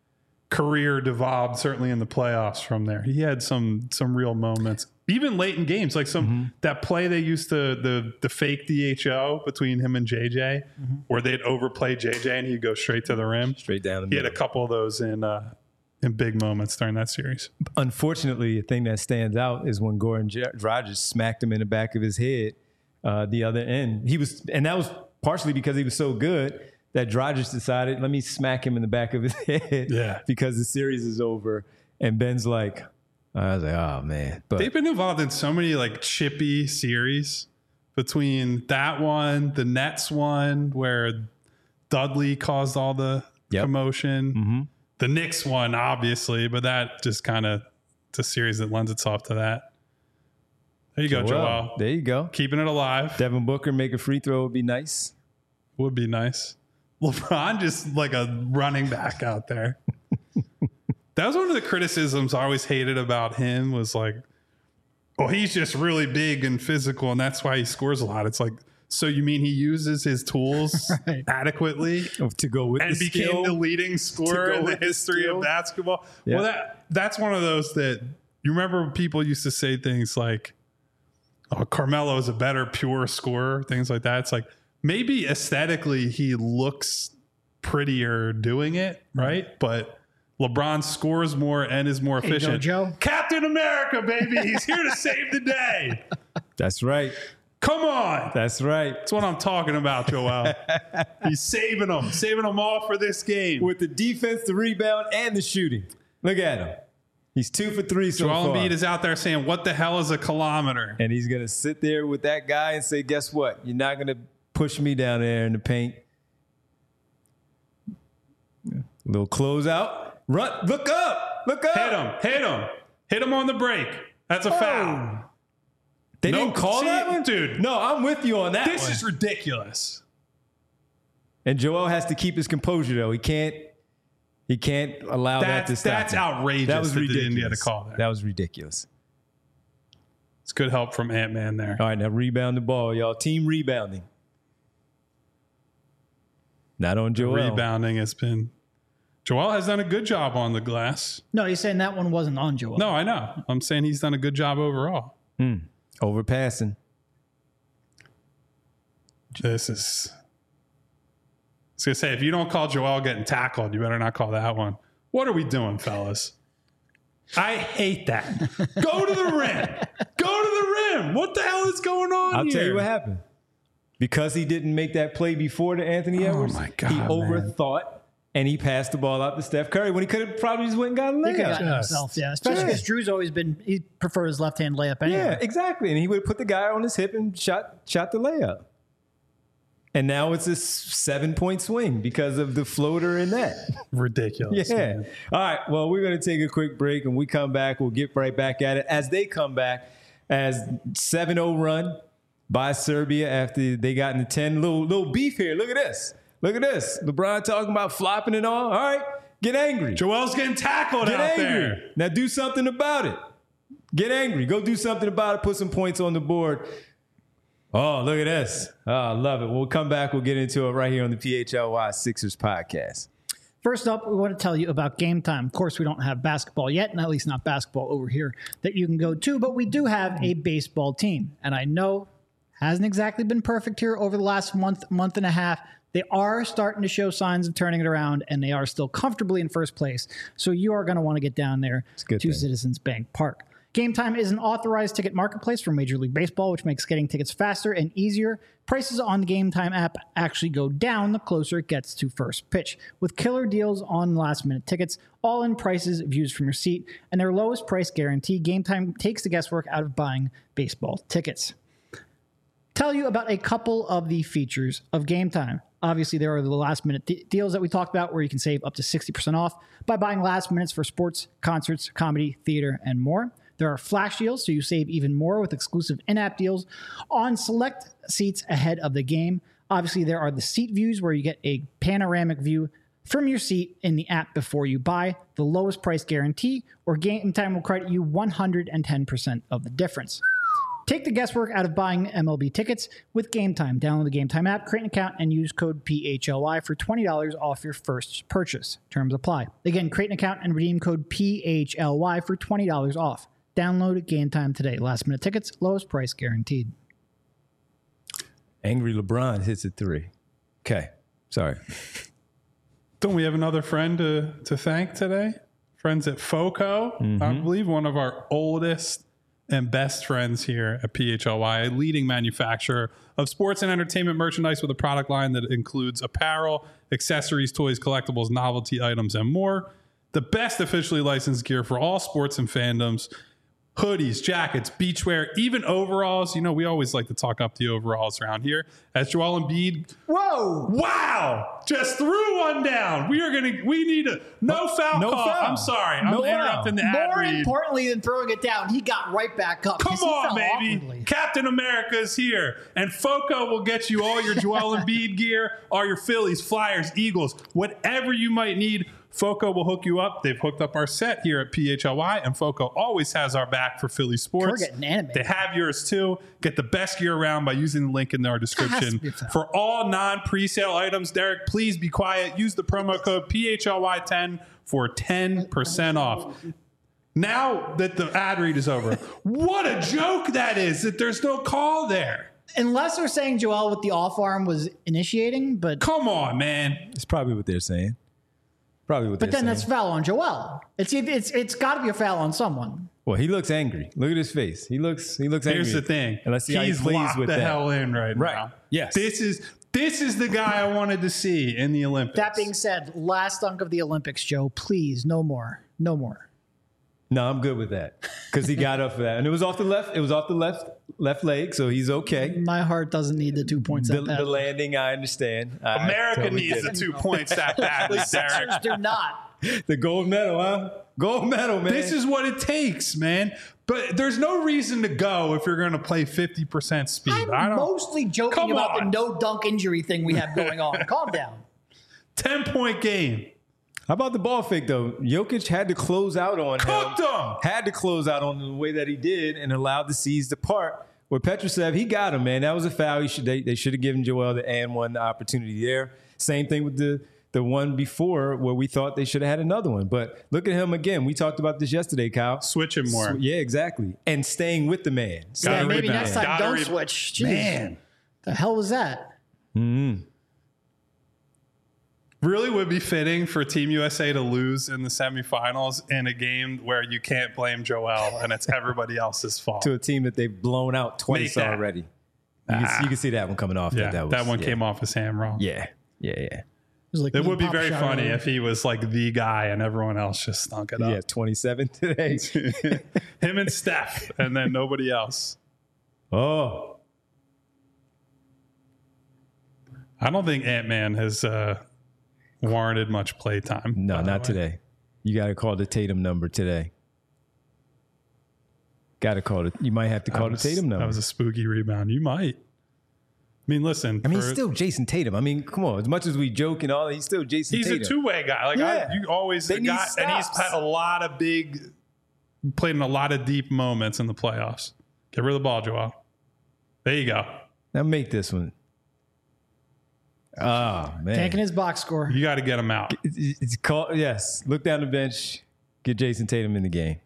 career devolved, certainly in the playoffs from there, he had some some real moments, even late in games, like some mm-hmm. that play they used to the the fake D H O between him and J J, mm-hmm. where they'd overplay J J and he'd go straight to the rim, straight down the he middle. Had a couple of those in uh in big moments during that series. Unfortunately, a thing that stands out is when Goran Dragic smacked him in the back of his head uh the other end. He was, and that was partially because he was so good that Dragic decided, let me smack him in the back of his head yeah. because the series is over. And Ben's like, I was like, oh, man. But they've been involved in so many like chippy series between that one, the Nets one, where Dudley caused all the yep. commotion. Mm-hmm. The Knicks one, obviously, but that just kind of, it's a series that lends itself to that. There you go, Joel. Joel. There you go. Keeping it alive. Devin Booker make a free throw would be nice. Would be nice. LeBron just like a running back out there. That was one of the criticisms I always hated about him was like, oh, he's just really big and physical and that's why he scores a lot. It's like, so you mean he uses his tools right. adequately to go with and the became skill, the leading scorer in the history the of basketball? Yeah. Well, that that's one of those that you remember people used to say things like, oh, Carmelo is a better pure scorer, things like that. It's like, maybe aesthetically he looks prettier doing it, right? But LeBron scores more and is more efficient. Hey, Joe. Captain America, baby. He's here to save the day. That's right. Come on. That's right. That's what I'm talking about, Joel. He's saving them. Saving them all for this game. With the defense, the rebound, and the shooting. Look at him. He's two for three so Joel far. Embiid is out there saying, what the hell is a kilometer? And he's going to sit there with that guy and say, guess what? You're not going to push me down there in the paint. A little closeout. Run. Look up. Look up. Hit him. Hit him. Hit him on the break. That's a oh. foul. They nope. didn't call See, that one? Dude. No, I'm with you on that This one. is ridiculous. And Joel has to keep his composure, though. He can't He can't allow that's, that to stop That's him. outrageous that was that ridiculous. they didn't get a call there. That was ridiculous. It's good help from Ant-Man there. All right, now rebound the ball, y'all. Team rebounding. Not on Joel. The rebounding has been... Joel has done a good job on the glass. No, he's saying that one wasn't on Joel. No, I know. I'm saying he's done a good job overall. Hmm. Overpassing. This is... I was going to say, if you don't call Joel getting tackled, you better not call that one. What are we doing, fellas? I hate that. Go to the rim. Go to the rim. What the hell is going on I'll here? tell you what happened. Because he didn't make that play before to Anthony Edwards, oh my God, he man. overthought and he passed the ball out to Steph Curry when he could have probably just went and got a He could have layup. gotten himself, yeah. Especially because Yeah. Drew's always been, he preferred his left-hand layup anyway. Yeah, exactly. And he would have put the guy on his hip and shot shot the layup. And now it's a seven-point swing because of the floater in that. Ridiculous. Yeah. Man. All right. Well, we're going to take a quick break. And we come back, we'll get right back at it. As they come back, as seven oh run by Serbia after they got into ten. Little, little beef here. Look at this. Look at this. LeBron talking about flopping and all. All right. Get angry. Joel's getting tackled Get out angry. there. Now do something about it. Get angry. Go do something about it. Put some points on the board. Oh, look at this. Oh, I love it. We'll come back. We'll get into it right here on the P H L Y Sixers podcast. First up, we want to tell you about Game Time. Of course, we don't have basketball yet, and at least not basketball over here that you can go to, but we do have a baseball team. And I know hasn't exactly been perfect here over the last month, month and a half. They are starting to show signs of turning it around, and they are still comfortably in first place. So you are going to want to get down there to thing. Citizens Bank Park. Game Time is an authorized ticket marketplace for Major League Baseball, which makes getting tickets faster and easier. Prices on the Game Time app actually go down the closer it gets to first pitch, with killer deals on last-minute tickets, all-in prices, views from your seat, and their lowest price guarantee. Game Time takes the guesswork out of buying baseball tickets. Tell you about a couple of the features of Game Time. Obviously, there are the last-minute de- deals that we talked about where you can save up to sixty percent off by buying last minutes for sports, concerts, comedy, theater, and more. There are flash deals, so you save even more with exclusive in-app deals on select seats ahead of the game. Obviously, there are the seat views where you get a panoramic view from your seat in the app before you buy, the lowest price guarantee, or Game Time will credit you one hundred ten percent of the difference. Take the guesswork out of buying M L B tickets with Game Time. Download the Game Time app, create an account, and use code P H L Y for twenty dollars off your first purchase. Terms apply. Again, create an account and redeem code P H L Y for twenty dollars off. Download Game Time today. Last minute tickets, lowest price guaranteed. Angry LeBron hits a three. Okay. Sorry. Don't we have another friend to, to thank today? Friends at FOCO, mm-hmm. I believe one of our oldest and best friends here at P H L Y, a leading manufacturer of sports and entertainment merchandise with a product line that includes apparel, accessories, toys, collectibles, novelty items, and more. The best officially licensed gear for all sports and fandoms. Hoodies, jackets, beachwear, even overalls. You know, we always like to talk up the overalls around here. As Joel Embiid. Whoa! Wow! Just threw one down. We are going to, we need a, no foul no call. Foul. I'm sorry. I'm no interrupting foul. the ad More read. importantly than throwing it down, he got right back up. Come on, baby. Awkwardly. Captain America is here. And FOCO will get you all your Joel Embiid gear, all your Phillies, Flyers, Eagles, whatever you might need. FOCO will hook you up. They've hooked up our set here at P H L Y, and FOCO always has our back for Philly sports. We're getting animated. They have yours too. Get the best gear around by using the link in our description. For all non-presale items, Derek, please be quiet. Use the promo code P H L Y ten for ten percent off. Now that the ad read is over, what a joke that is that there's no call there. Unless they're saying Joel with the off arm was initiating, but come on, man. It's probably what they're saying. Probably what but they're then saying. that's foul on Joel. It's it's it's got to be a foul on someone. Well, he looks angry. Look at his face. He looks he looks angry. Here's the thing. And let's see how he He's plays locked with the that. hell in right, Right. now. Yes. This is this is the guy I wanted to see in the Olympics. That being said, last dunk of the Olympics, Joe. Please, no more, no more. No, I'm good with that because he got up for that, and it was off the left. It was off the left left leg, so he's okay. My heart doesn't need the two points. The, that the landing, I understand. I America totally needs get the it. two points that badly, Derek. Sixers do not. The gold medal, huh? Gold medal, man. This is what it takes, man. But there's no reason to go if you're going to play fifty percent speed. I'm I don't, mostly joking Come about on. the no dunk injury thing we have going on. Calm down. ten-point game. How about the ball fake, though? Jokic had to close out on Cooked him. him. Had to close out on him the way that he did and allowed the C's to part. With Petrusev, he got him, man. That was a foul. He should, they, they should have given Joel the and one the opportunity there. Same thing with the, the one before where we thought they should have had another one. But look at him again. We talked about this yesterday, Kyle. Switch him more. Sw- yeah, exactly. And staying with the man. Gotta Yeah, maybe rebound. next time Gotta don't re- switch. Jeez. Man. The hell was that? Mm-hmm. Really would be fitting for Team U S A to lose in the semifinals in a game where you can't blame Joel and it's everybody else's fault. To a team that they've blown out twice Make that. already. You, can, Ah. you can see that one coming off. Yeah, that, that, that, was, one yeah. came off his hand wrong. Yeah, yeah, yeah. It was like It me would be pop very shot funny earlier. if he was like the guy and everyone else just stunk it up. Yeah, twenty-seven today. Him and Steph, and then nobody else. Oh, I don't think Ant-Man has uh, warranted much playtime. no, by the not way. today. You got to call the Tatum number today. Got to call it. You might have to call That was, the Tatum number. that was a spooky rebound. You might. I mean, listen. I mean, for- he's still Jason Tatum. I mean, come on. As much as we joke and all, he's still Jason he's Tatum. a two-way guy. Like Yeah. I, you always They need got, and he's stops. had a lot of big, played in a lot of deep moments in the playoffs. Get rid of the ball, Joel. There you go. Now make this one. Oh, man. Tanking his box score. You got to get him out. It's, it's called, yes. Look down the bench. Get Jason Tatum in the game.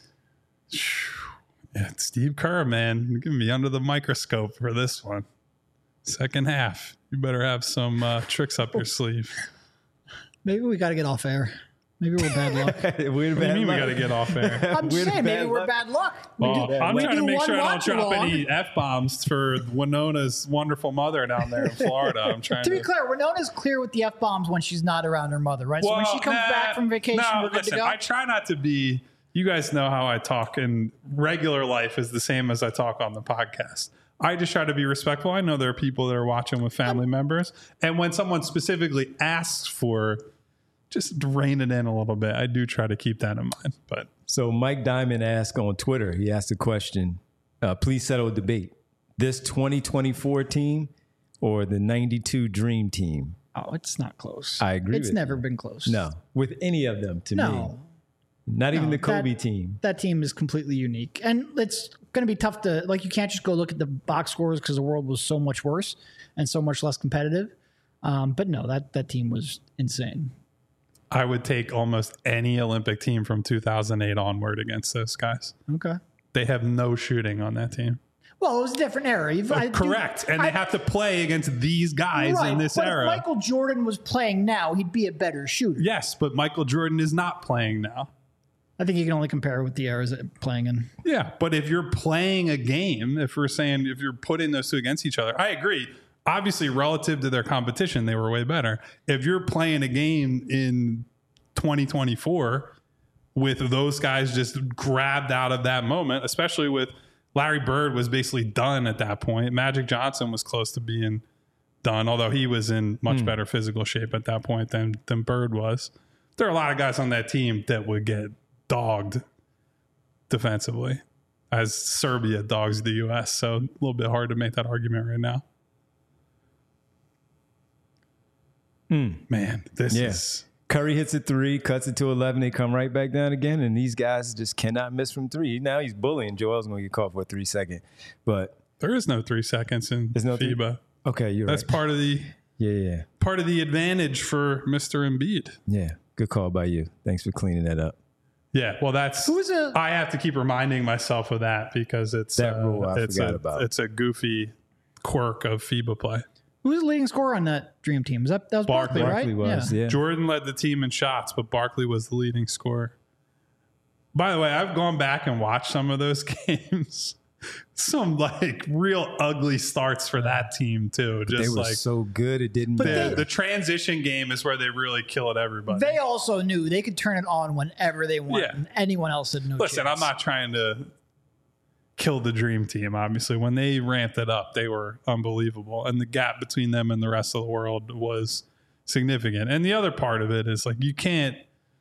Yeah, Steve Kerr, man, you're gonna be under the microscope for this one. Second half, you better have some uh, tricks up your sleeve. Maybe we got to get off air. Maybe we're bad luck. we're What do you mean we got to get off air? I'm just We're saying, maybe bad we're luck. bad luck. We Well, do- I'm we trying to do make one sure I don't watch drop along. any F bombs for Winona's wonderful mother down there in Florida. I'm trying To to. be clear, Winona's clear with the F bombs when she's not around her mother, right? so when Well, she comes nah, back from vacation, no, we're good listen, to go. I try not to be. You guys know how I talk, and regular life is the same as I talk on the podcast. I just try to be respectful. I know there are people that are watching with family members, and when someone specifically asks for, just rein it in a little bit. I do try to keep that in mind. But So Mike Diamond asked on Twitter, he asked a question, uh, please settle a debate. This twenty twenty-four team or the ninety-two Dream Team? oh, it's not close. I agree It's with never you. been close. No, with any of them to me. No. Not even No, the Kobe that- team. That team is completely unique. And let's going to be tough to, like, you can't just go look at the box scores because the world was so much worse and so much less competitive. Um, but no, that, that team was insane. I would take almost any Olympic team from two thousand eight onward against those guys. Okay. They have no shooting on that team. Well, it was a different era. You've, Oh, I, correct. you, and I, they have to play against these guys right, in this but era. If Michael Jordan was playing now, he'd be a better shooter. Yes, but Michael Jordan is not playing now. I think you can only compare with the eras that playing in. Yeah, but if you're playing a game, if we're saying if you're putting those two against each other, I agree. Obviously, relative to their competition, they were way better. If you're playing a game in twenty twenty-four with those guys just grabbed out of that moment, especially with Larry Bird was basically done at that point. Magic Johnson was close to being done, although he was in much mm. better physical shape at that point than, than Bird was. There are a lot of guys on that team that would get dogged defensively as Serbia dogs the U S. So a little bit hard to make that argument right now. Mm. Man, this yeah. is... Curry hits a three, cuts it to eleven. They come right back down again, and these guys just cannot miss from three. Now he's bullying. Joel's going to get caught for a three second. But there is no three seconds in there's no FIBA. Three? Okay, you're That's right. part of the yeah, yeah. part of the advantage for Mister Embiid. Yeah, good call by you. Thanks for cleaning that up. Yeah, well, that's Who is a, I have to keep reminding myself of that because it's that rule uh, I it's forgot a, about. It's a goofy quirk of FIBA play. Who was the leading scorer on that Dream team? Was that, that was Barkley, Barkley right? was, yeah. yeah. Jordan led the team in shots, but Barkley was the leading scorer. By the way, I've gone back and watched some of those games. Some like real ugly starts for that team too. But Just they were like so good it didn't But matter. the, the transition game is where they really killed everybody. They also knew they could turn it on whenever they want, Yeah. and anyone else had no Listen, chance. I'm not trying to kill the dream team. Obviously, when they ramped it up, they were unbelievable, and the gap between them and the rest of the world was significant. And the other part of it is like you can't.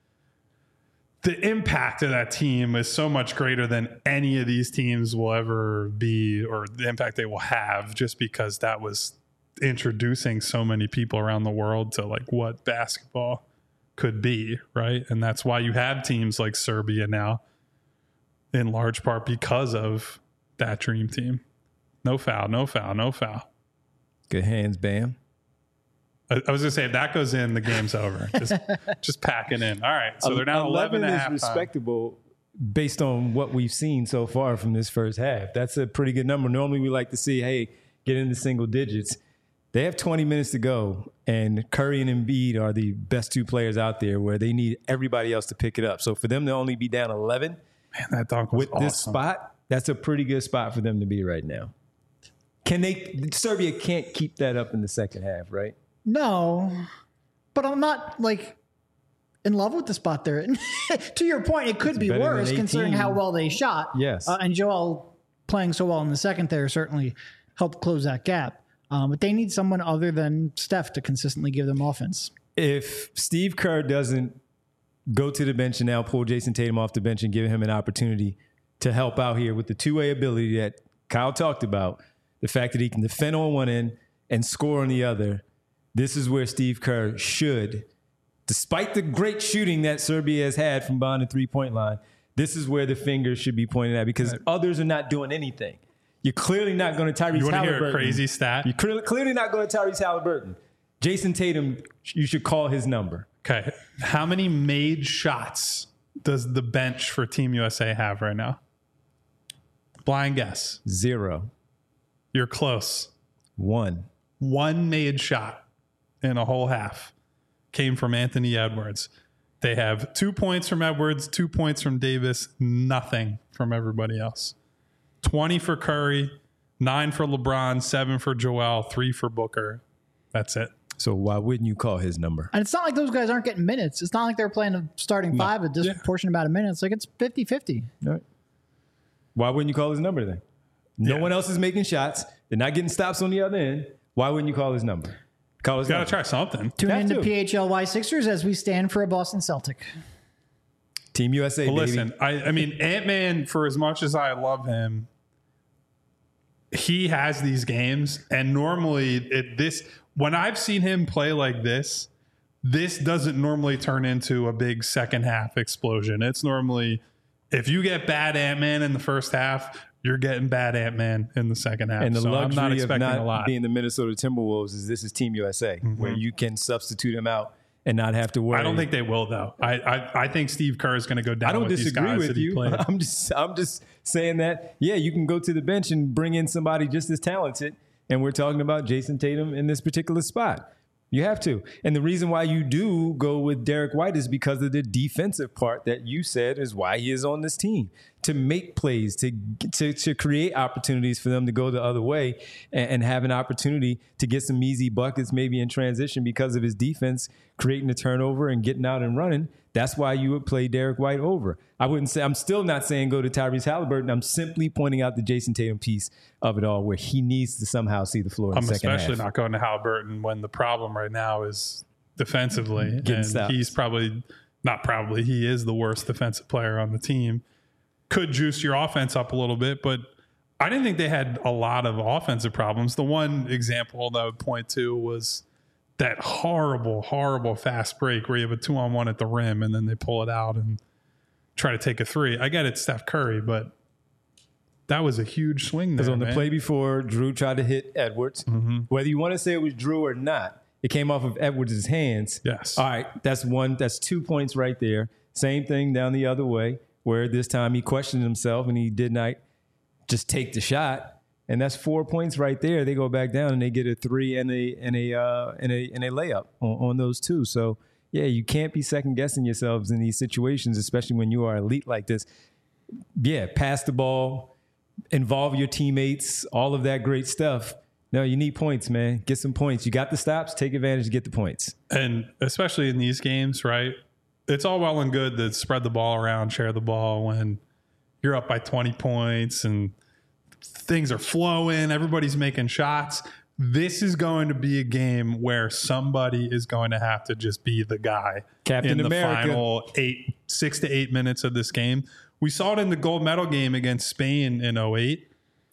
The impact of that team is so much greater than any of these teams will ever be, or the impact they will have, just because that was introducing so many people around the world to like what basketball could be, right? And that's why you have teams like Serbia now, in large part because of that dream team. No foul, no foul, no foul. Good hands, Bam. I, I was gonna say if that goes in, the game's over. Just, just pack it in. All right, so they're now eleven, eleven and a half. Is respectable based on what we've seen so far from this first half. That's a pretty good number. Normally, we like to see, hey, get into single digits. They have twenty minutes to go, and Curry and Embiid are the best two players out there where they need everybody else to pick it up. So for them to only be down eleven man, that dunk was with awesome. this spot, that's a pretty good spot for them to be right now. Can they? Serbia can't keep that up in the second half, right? No, but I'm not like in love with the spot there. To your point, it could It's be better than worse considering eighteen. how well they shot. Yes. Uh, and Joel playing so well in the second there certainly helped close that gap. Um, but they need someone other than Steph to consistently give them offense. If Steve Kerr doesn't go to the bench and now pull Jason Tatum off the bench and give him an opportunity to help out here with the two-way ability that Kyle talked about, the fact that he can defend on one end and score on the other, this is where Steve Kerr should, despite the great shooting that Serbia has had from behind the three-point line, this is where the fingers should be pointed at because others are not doing anything. You're clearly not going to Tyrese Halliburton. You want to hear a crazy stat? You're clearly, clearly not going to Tyrese Halliburton. Jason Tatum, you should call his number. Okay. How many made shots does the bench for Team U S A have right now? Blind guess. Zero. You're close. One. One made shot in a whole half came from Anthony Edwards. They have two points from Edwards, two points from Davis, nothing from everybody else. twenty for Curry, nine for LeBron, seven for Joel, three for Booker. That's it. So why wouldn't you call his number? And it's not like those guys aren't getting minutes. It's not like they're playing a starting No. five, a disproportionate amount of minutes. Like it's fifty-fifty. All right. Why wouldn't you call his number then? No Yeah. one else is making shots. They're not getting stops on the other end. Why wouldn't you call his number? Call his Got to number. try something. Tune Have in to to. P H L Y Sixers as we stand for a Boston Celtic. Team U S A, Well, baby. listen, I, I mean, Ant-Man, for as much as I love him, he has these games, and normally it, this when I've seen him play like this, this doesn't normally turn into a big second half explosion. It's normally if you get bad Ant-Man in the first half, you're getting bad Ant-Man in the second half. And the so luxury I'm not expecting of not a lot. being the Minnesota Timberwolves is this is Team U S A, mm-hmm. where you can substitute him out and not have to worry. I don't think they will, though. I I, I think Steve Kerr is going to go down. I don't with disagree these guys with that you. He I'm just I'm just saying that yeah, you can go to the bench and bring in somebody just as talented. And we're talking about Jason Tatum in this particular spot. You have to. And the reason why you do go with Derek White is because of the defensive part that you said is why he is on this team. To make plays, to to, to create opportunities for them to go the other way and, and have an opportunity to get some easy buckets maybe in transition because of his defense, creating a turnover and getting out and running. That's why you would play Derek White over. I wouldn't say, I'm still not saying go to Tyrese Halliburton. I'm simply pointing out the Jason Tatum piece of it all where he needs to somehow see the floor in I'm the second half. especially not going to Halliburton when the problem right now is defensively. Getting and stops. He's probably, not probably, he is the worst defensive player on the team. Could juice your offense up a little bit, but I didn't think they had a lot of offensive problems. The one example that I would point to was that horrible, horrible fast break where you have a two on one at the rim and then they pull it out and try to take a three. I get it, Steph Curry, but that was a huge swing there. Because on the man. play before, Drew tried to hit Edwards. Mm-hmm. Whether you want to say it was Drew or not, it came off of Edwards' hands. Yes. All right, that's one. That's two points right there. Same thing down the other way, where this time he questioned himself and he did not just take the shot. And that's four points right there. They go back down and they get a three and a and a uh, and a and a layup on, on those two. So yeah, you can't be second guessing yourselves in these situations, especially when you are elite like this. Yeah, pass the ball, involve your teammates, all of that great stuff. No, you need points, man. Get some points. You got the stops. Take advantage. Get the points. And especially in these games, right? It's all well and good to spread the ball around, share the ball when you're up by twenty points and things are flowing, everybody's making shots. This is going to be a game where somebody is going to have to just be the guy Captain in the America. final eight, six to eight minutes of this game. We saw it in the gold medal game against Spain in oh eight.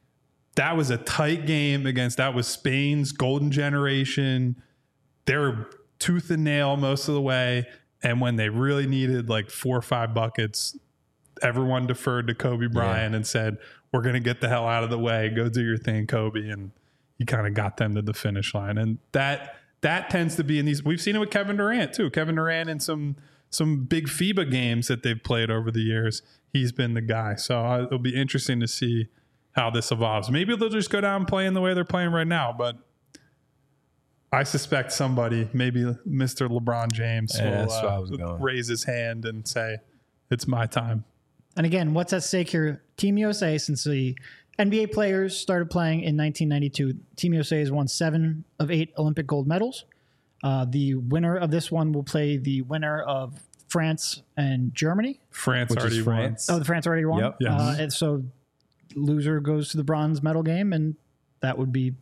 That was a tight game against, that was Spain's golden generation. They were tooth and nail most of the way. And when they really needed like four or five buckets, everyone deferred to Kobe Bryant yeah. and said, we're going to get the hell out of the way. Go do your thing, Kobe. And he kind of got them to the finish line. And that that tends to be in these. We've seen it with Kevin Durant, too. Kevin Durant in some some big FIBA games that they've played over the years. He's been the guy. So uh, it'll be interesting to see how this evolves. Maybe they'll just go down playing the way they're playing right now. But I suspect somebody, maybe Mister LeBron James, yeah, will uh, raise his hand and say, it's my time. And again, what's at stake here? Team U S A, since the N B A players started playing in nineteen ninety-two, Team U S A has won seven of eight Olympic gold medals. Uh, the winner of this one will play the winner of France and Germany. France Which already is France. won. Oh, the France already won? Yep. Yes. Uh, and so loser goes to the bronze medal game, and that would be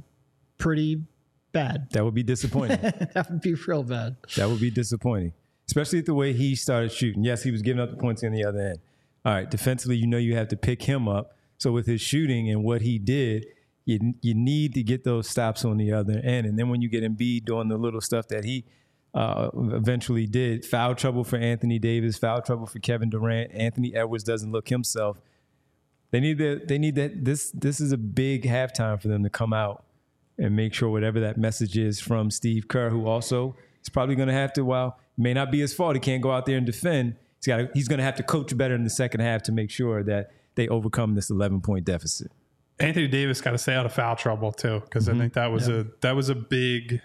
pretty bad. That would be disappointing. That would be real bad. That would be disappointing, especially the way he started shooting. Yes, he was giving up the points on the other end. All right, defensively, you know you have to pick him up. So with his shooting and what he did, you you need to get those stops on the other end. And then when you get Embiid doing the little stuff that he uh, eventually did, foul trouble for Anthony Davis, foul trouble for Kevin Durant. Anthony Edwards doesn't look himself. They need that. They need that. This this is a big halftime for them to come out and make sure whatever that message is from Steve Kerr, who also is probably going to have to. While it may not be his fault, he can't go out there and defend. He's got. He's going to have to coach better in the second half to make sure that they overcome this eleven-point deficit. Anthony Davis got to stay out of foul trouble too, because mm-hmm. I think that was yeah. a that was a big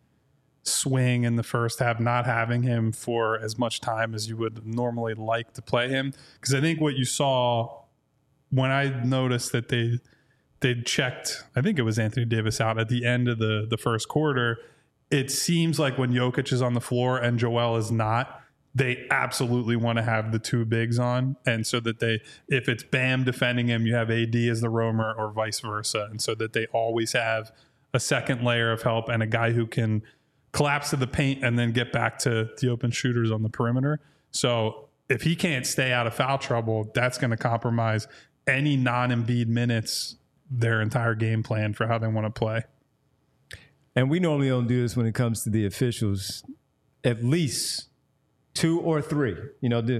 swing in the first half, not having him for as much time as you would normally like to play him. Because I think what you saw when I noticed that they they checked, I think it was Anthony Davis out at the end of the the first quarter. It seems like when Jokic is on the floor and Joel is not, they absolutely want to have the two bigs on. And so that they, if it's Bam defending him, you have A D as the roamer or vice versa. And so that they always have a second layer of help and a guy who can collapse to the paint and then get back to the open shooters on the perimeter. So if he can't stay out of foul trouble, that's going to compromise any non-Embiid minutes, their entire game plan for how they want to play. And we normally don't do this when it comes to the officials. At least two or three. You know, the,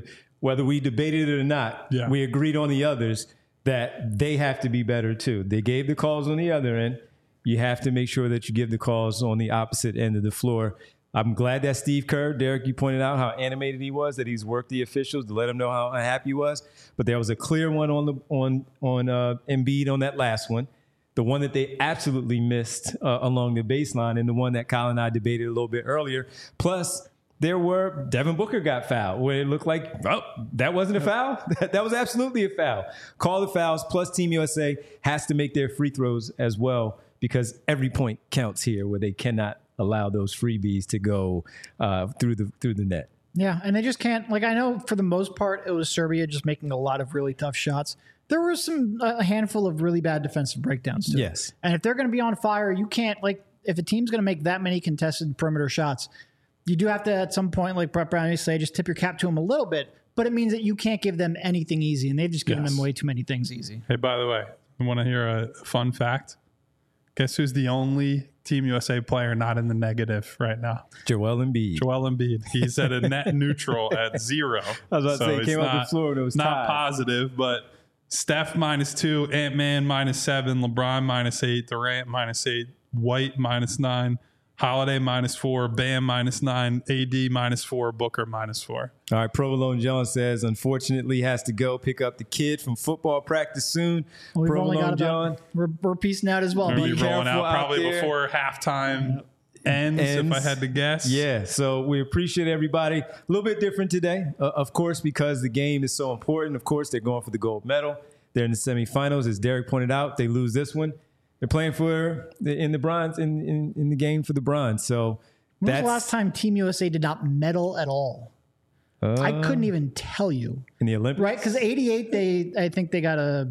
whether we debated it or not, Yeah. we agreed on the others that they have to be better too. They gave the calls on the other end. You have to make sure that you give the calls on the opposite end of the floor. I'm glad that Steve Kerr, Derek, you pointed out how animated he was, that he's worked the officials to let him know how unhappy he was. But there was a clear one on the on on uh, Embiid on that last one, the one that they absolutely missed uh, along the baseline, and the one that Kyle and I debated a little bit earlier. Plus, there were Devin Booker got fouled, where it looked like, oh, that wasn't a foul. That, that was absolutely a foul. Call the fouls. Plus, Team U S A has to make their free throws as well, because every point counts here, where they cannot allow those freebies to go uh, through the through the net. Yeah, and they just can't. Like, I know for the most part it was Serbia just making a lot of really tough shots. There were some a handful of really bad defensive breakdowns too. Yes, and if they're going to be on fire, you can't, like, if a team's going to make that many contested perimeter shots, you do have to at some point, like Brett Brown used to say, just tip your cap to them a little bit. But it means that you can't give them anything easy, and they've just given Yes. them way too many things easy. Hey, by the way, you want to hear a fun fact? Guess who's the only Team U S A player not in the negative right now? Joel Embiid. Joel Embiid. He's at a net neutral at zero. I was about to say, he it's came up not- with Florida. It was not tied. positive, but Steph minus two, Ant-Man minus seven, LeBron minus eight, Durant minus eight, White minus nine, Holiday minus four, Bam minus nine, A D minus four, Booker minus four. All right, Provolone John says, unfortunately, has to go pick up the kid from football practice soon. We've only Provolone got John. about, we're, we're piecing out as well. I'm going to Be be rolling careful out out probably there. before halftime ends, Ends. if I had to guess. Yeah, so we appreciate everybody. A little bit different today, uh, of course, because the game is so important. Of course, they're going for the gold medal. They're in the semifinals, as Derek pointed out. They lose this one, they're playing for the, in the bronze in, in in the game for the bronze. So When was that's the last time Team U S A did not medal at all? uh, I couldn't even tell you. in the Olympics, Right, because eighty-eight, they I think they got a,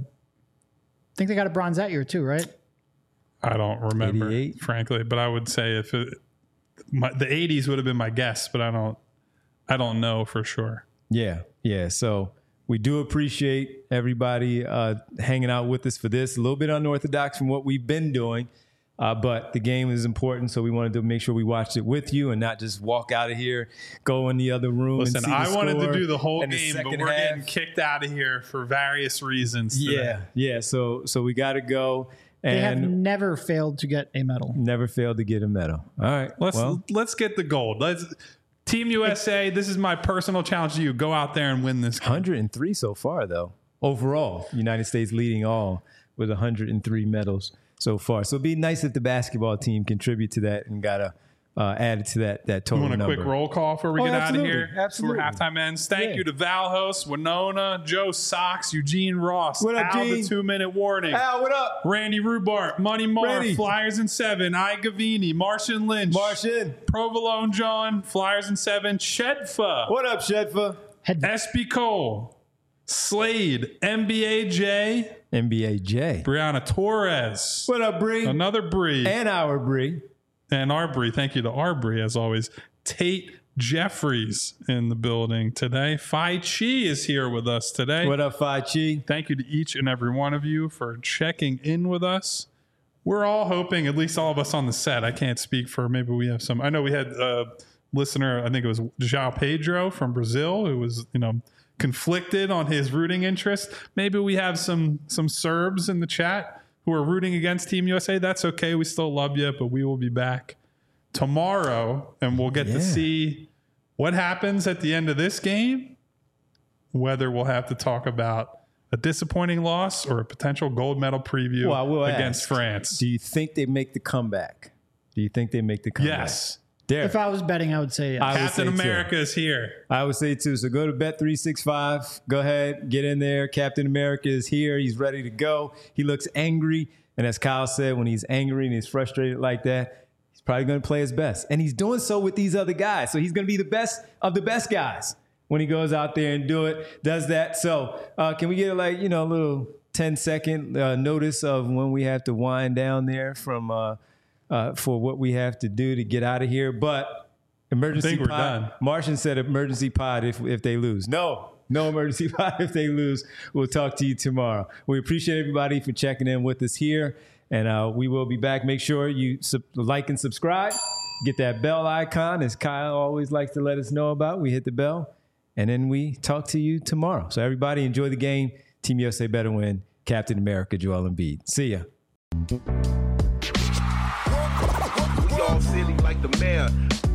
I think they got a bronze that year too, right? I don't remember, eighty-eight? frankly, but I would say if it, my, the eighties would have been my guess, but I don't, I don't know for sure. Yeah, yeah. So we do appreciate everybody uh, hanging out with us for this. A little bit unorthodox from what we've been doing, uh, but the game is important, so we wanted to make sure we watched it with you and not just walk out of here, go in the other room. Listen, and see the I wanted to score do the whole in the game, but second we're half. getting kicked out of here for various reasons. today. Yeah, yeah. So so we got to go They have and never failed to get a medal. never failed to get a medal. All right. Let's well, let's get the gold. Let's Team U S A. This is my personal challenge to you. Go out there and win this game. one hundred three so far, though. Overall, United States leading all with one hundred three medals so far. So it'd be nice if the basketball team contribute to that and got to uh, add it to that that You total want a number. quick roll call before we Oh, get absolutely. out of here? Absolutely. Before halftime ends. Thank Yeah. you to Valhos, Winona, Joe Sox, Eugene Ross, What up, Al the Gene? two-minute warning, Al, what up? Randy Rubart, Money Mar, Randy. Flyers in seven, I Gavini, Martian Lynch, Martian. Provolone John, Flyers in seven, Shedfa, What up, Shedfa? Head S B Cole, Slade, N B A J, N B A J. Brianna Torres, What up, Bree? another Bree, And our Bree. and Arbery. Thank you to Arbery, as always. Tate Jeffries in the building today. Phi Chi is here with us today. What up, Phi Chi? Thank you to each and every one of you for checking in with us. We're all hoping, at least all of us on the set, I can't speak for, maybe we have some. I know we had a listener, I think it was João Pedro from Brazil, who was, you know, conflicted on his rooting interest. Maybe we have some some Serbs in the chat who are rooting against Team U S A. That's okay. We still love you, but we will be back tomorrow and we'll get Yeah. to see what happens at the end of this game, whether we'll have to talk about a disappointing loss or a potential gold medal preview Well, I will against ask, France. Do you think they make the comeback? Do you think they make the comeback? Yes. Derek. If I was betting, I would say yes. I would Captain say too. America is here. I would say too. So go to Bet three sixty-five. Go ahead, get in there. Captain America is here. He's ready to go. He looks angry. And as Kyle said, when he's angry and he's frustrated like that, he's probably going to play his best. And he's doing so with these other guys. So he's going to be the best of the best guys when he goes out there and do it, does that. So uh, can we get like, you know, a little ten second uh, notice of when we have to wind down there from uh, uh, for what we have to do to get out of here? But emergency I think we're pod. done. Martian said emergency pod if if they lose. No, no emergency pod if they lose. We'll talk to you tomorrow. We appreciate everybody for checking in with us here, and uh, we will be back. Make sure you sub- like and subscribe. Get that bell icon, as Kyle always likes to let us know about. We hit the bell, And then we talk to you tomorrow. So everybody enjoy the game. Team U S A better win. Captain America, Joel Embiid. See ya. We all silly like the mayor.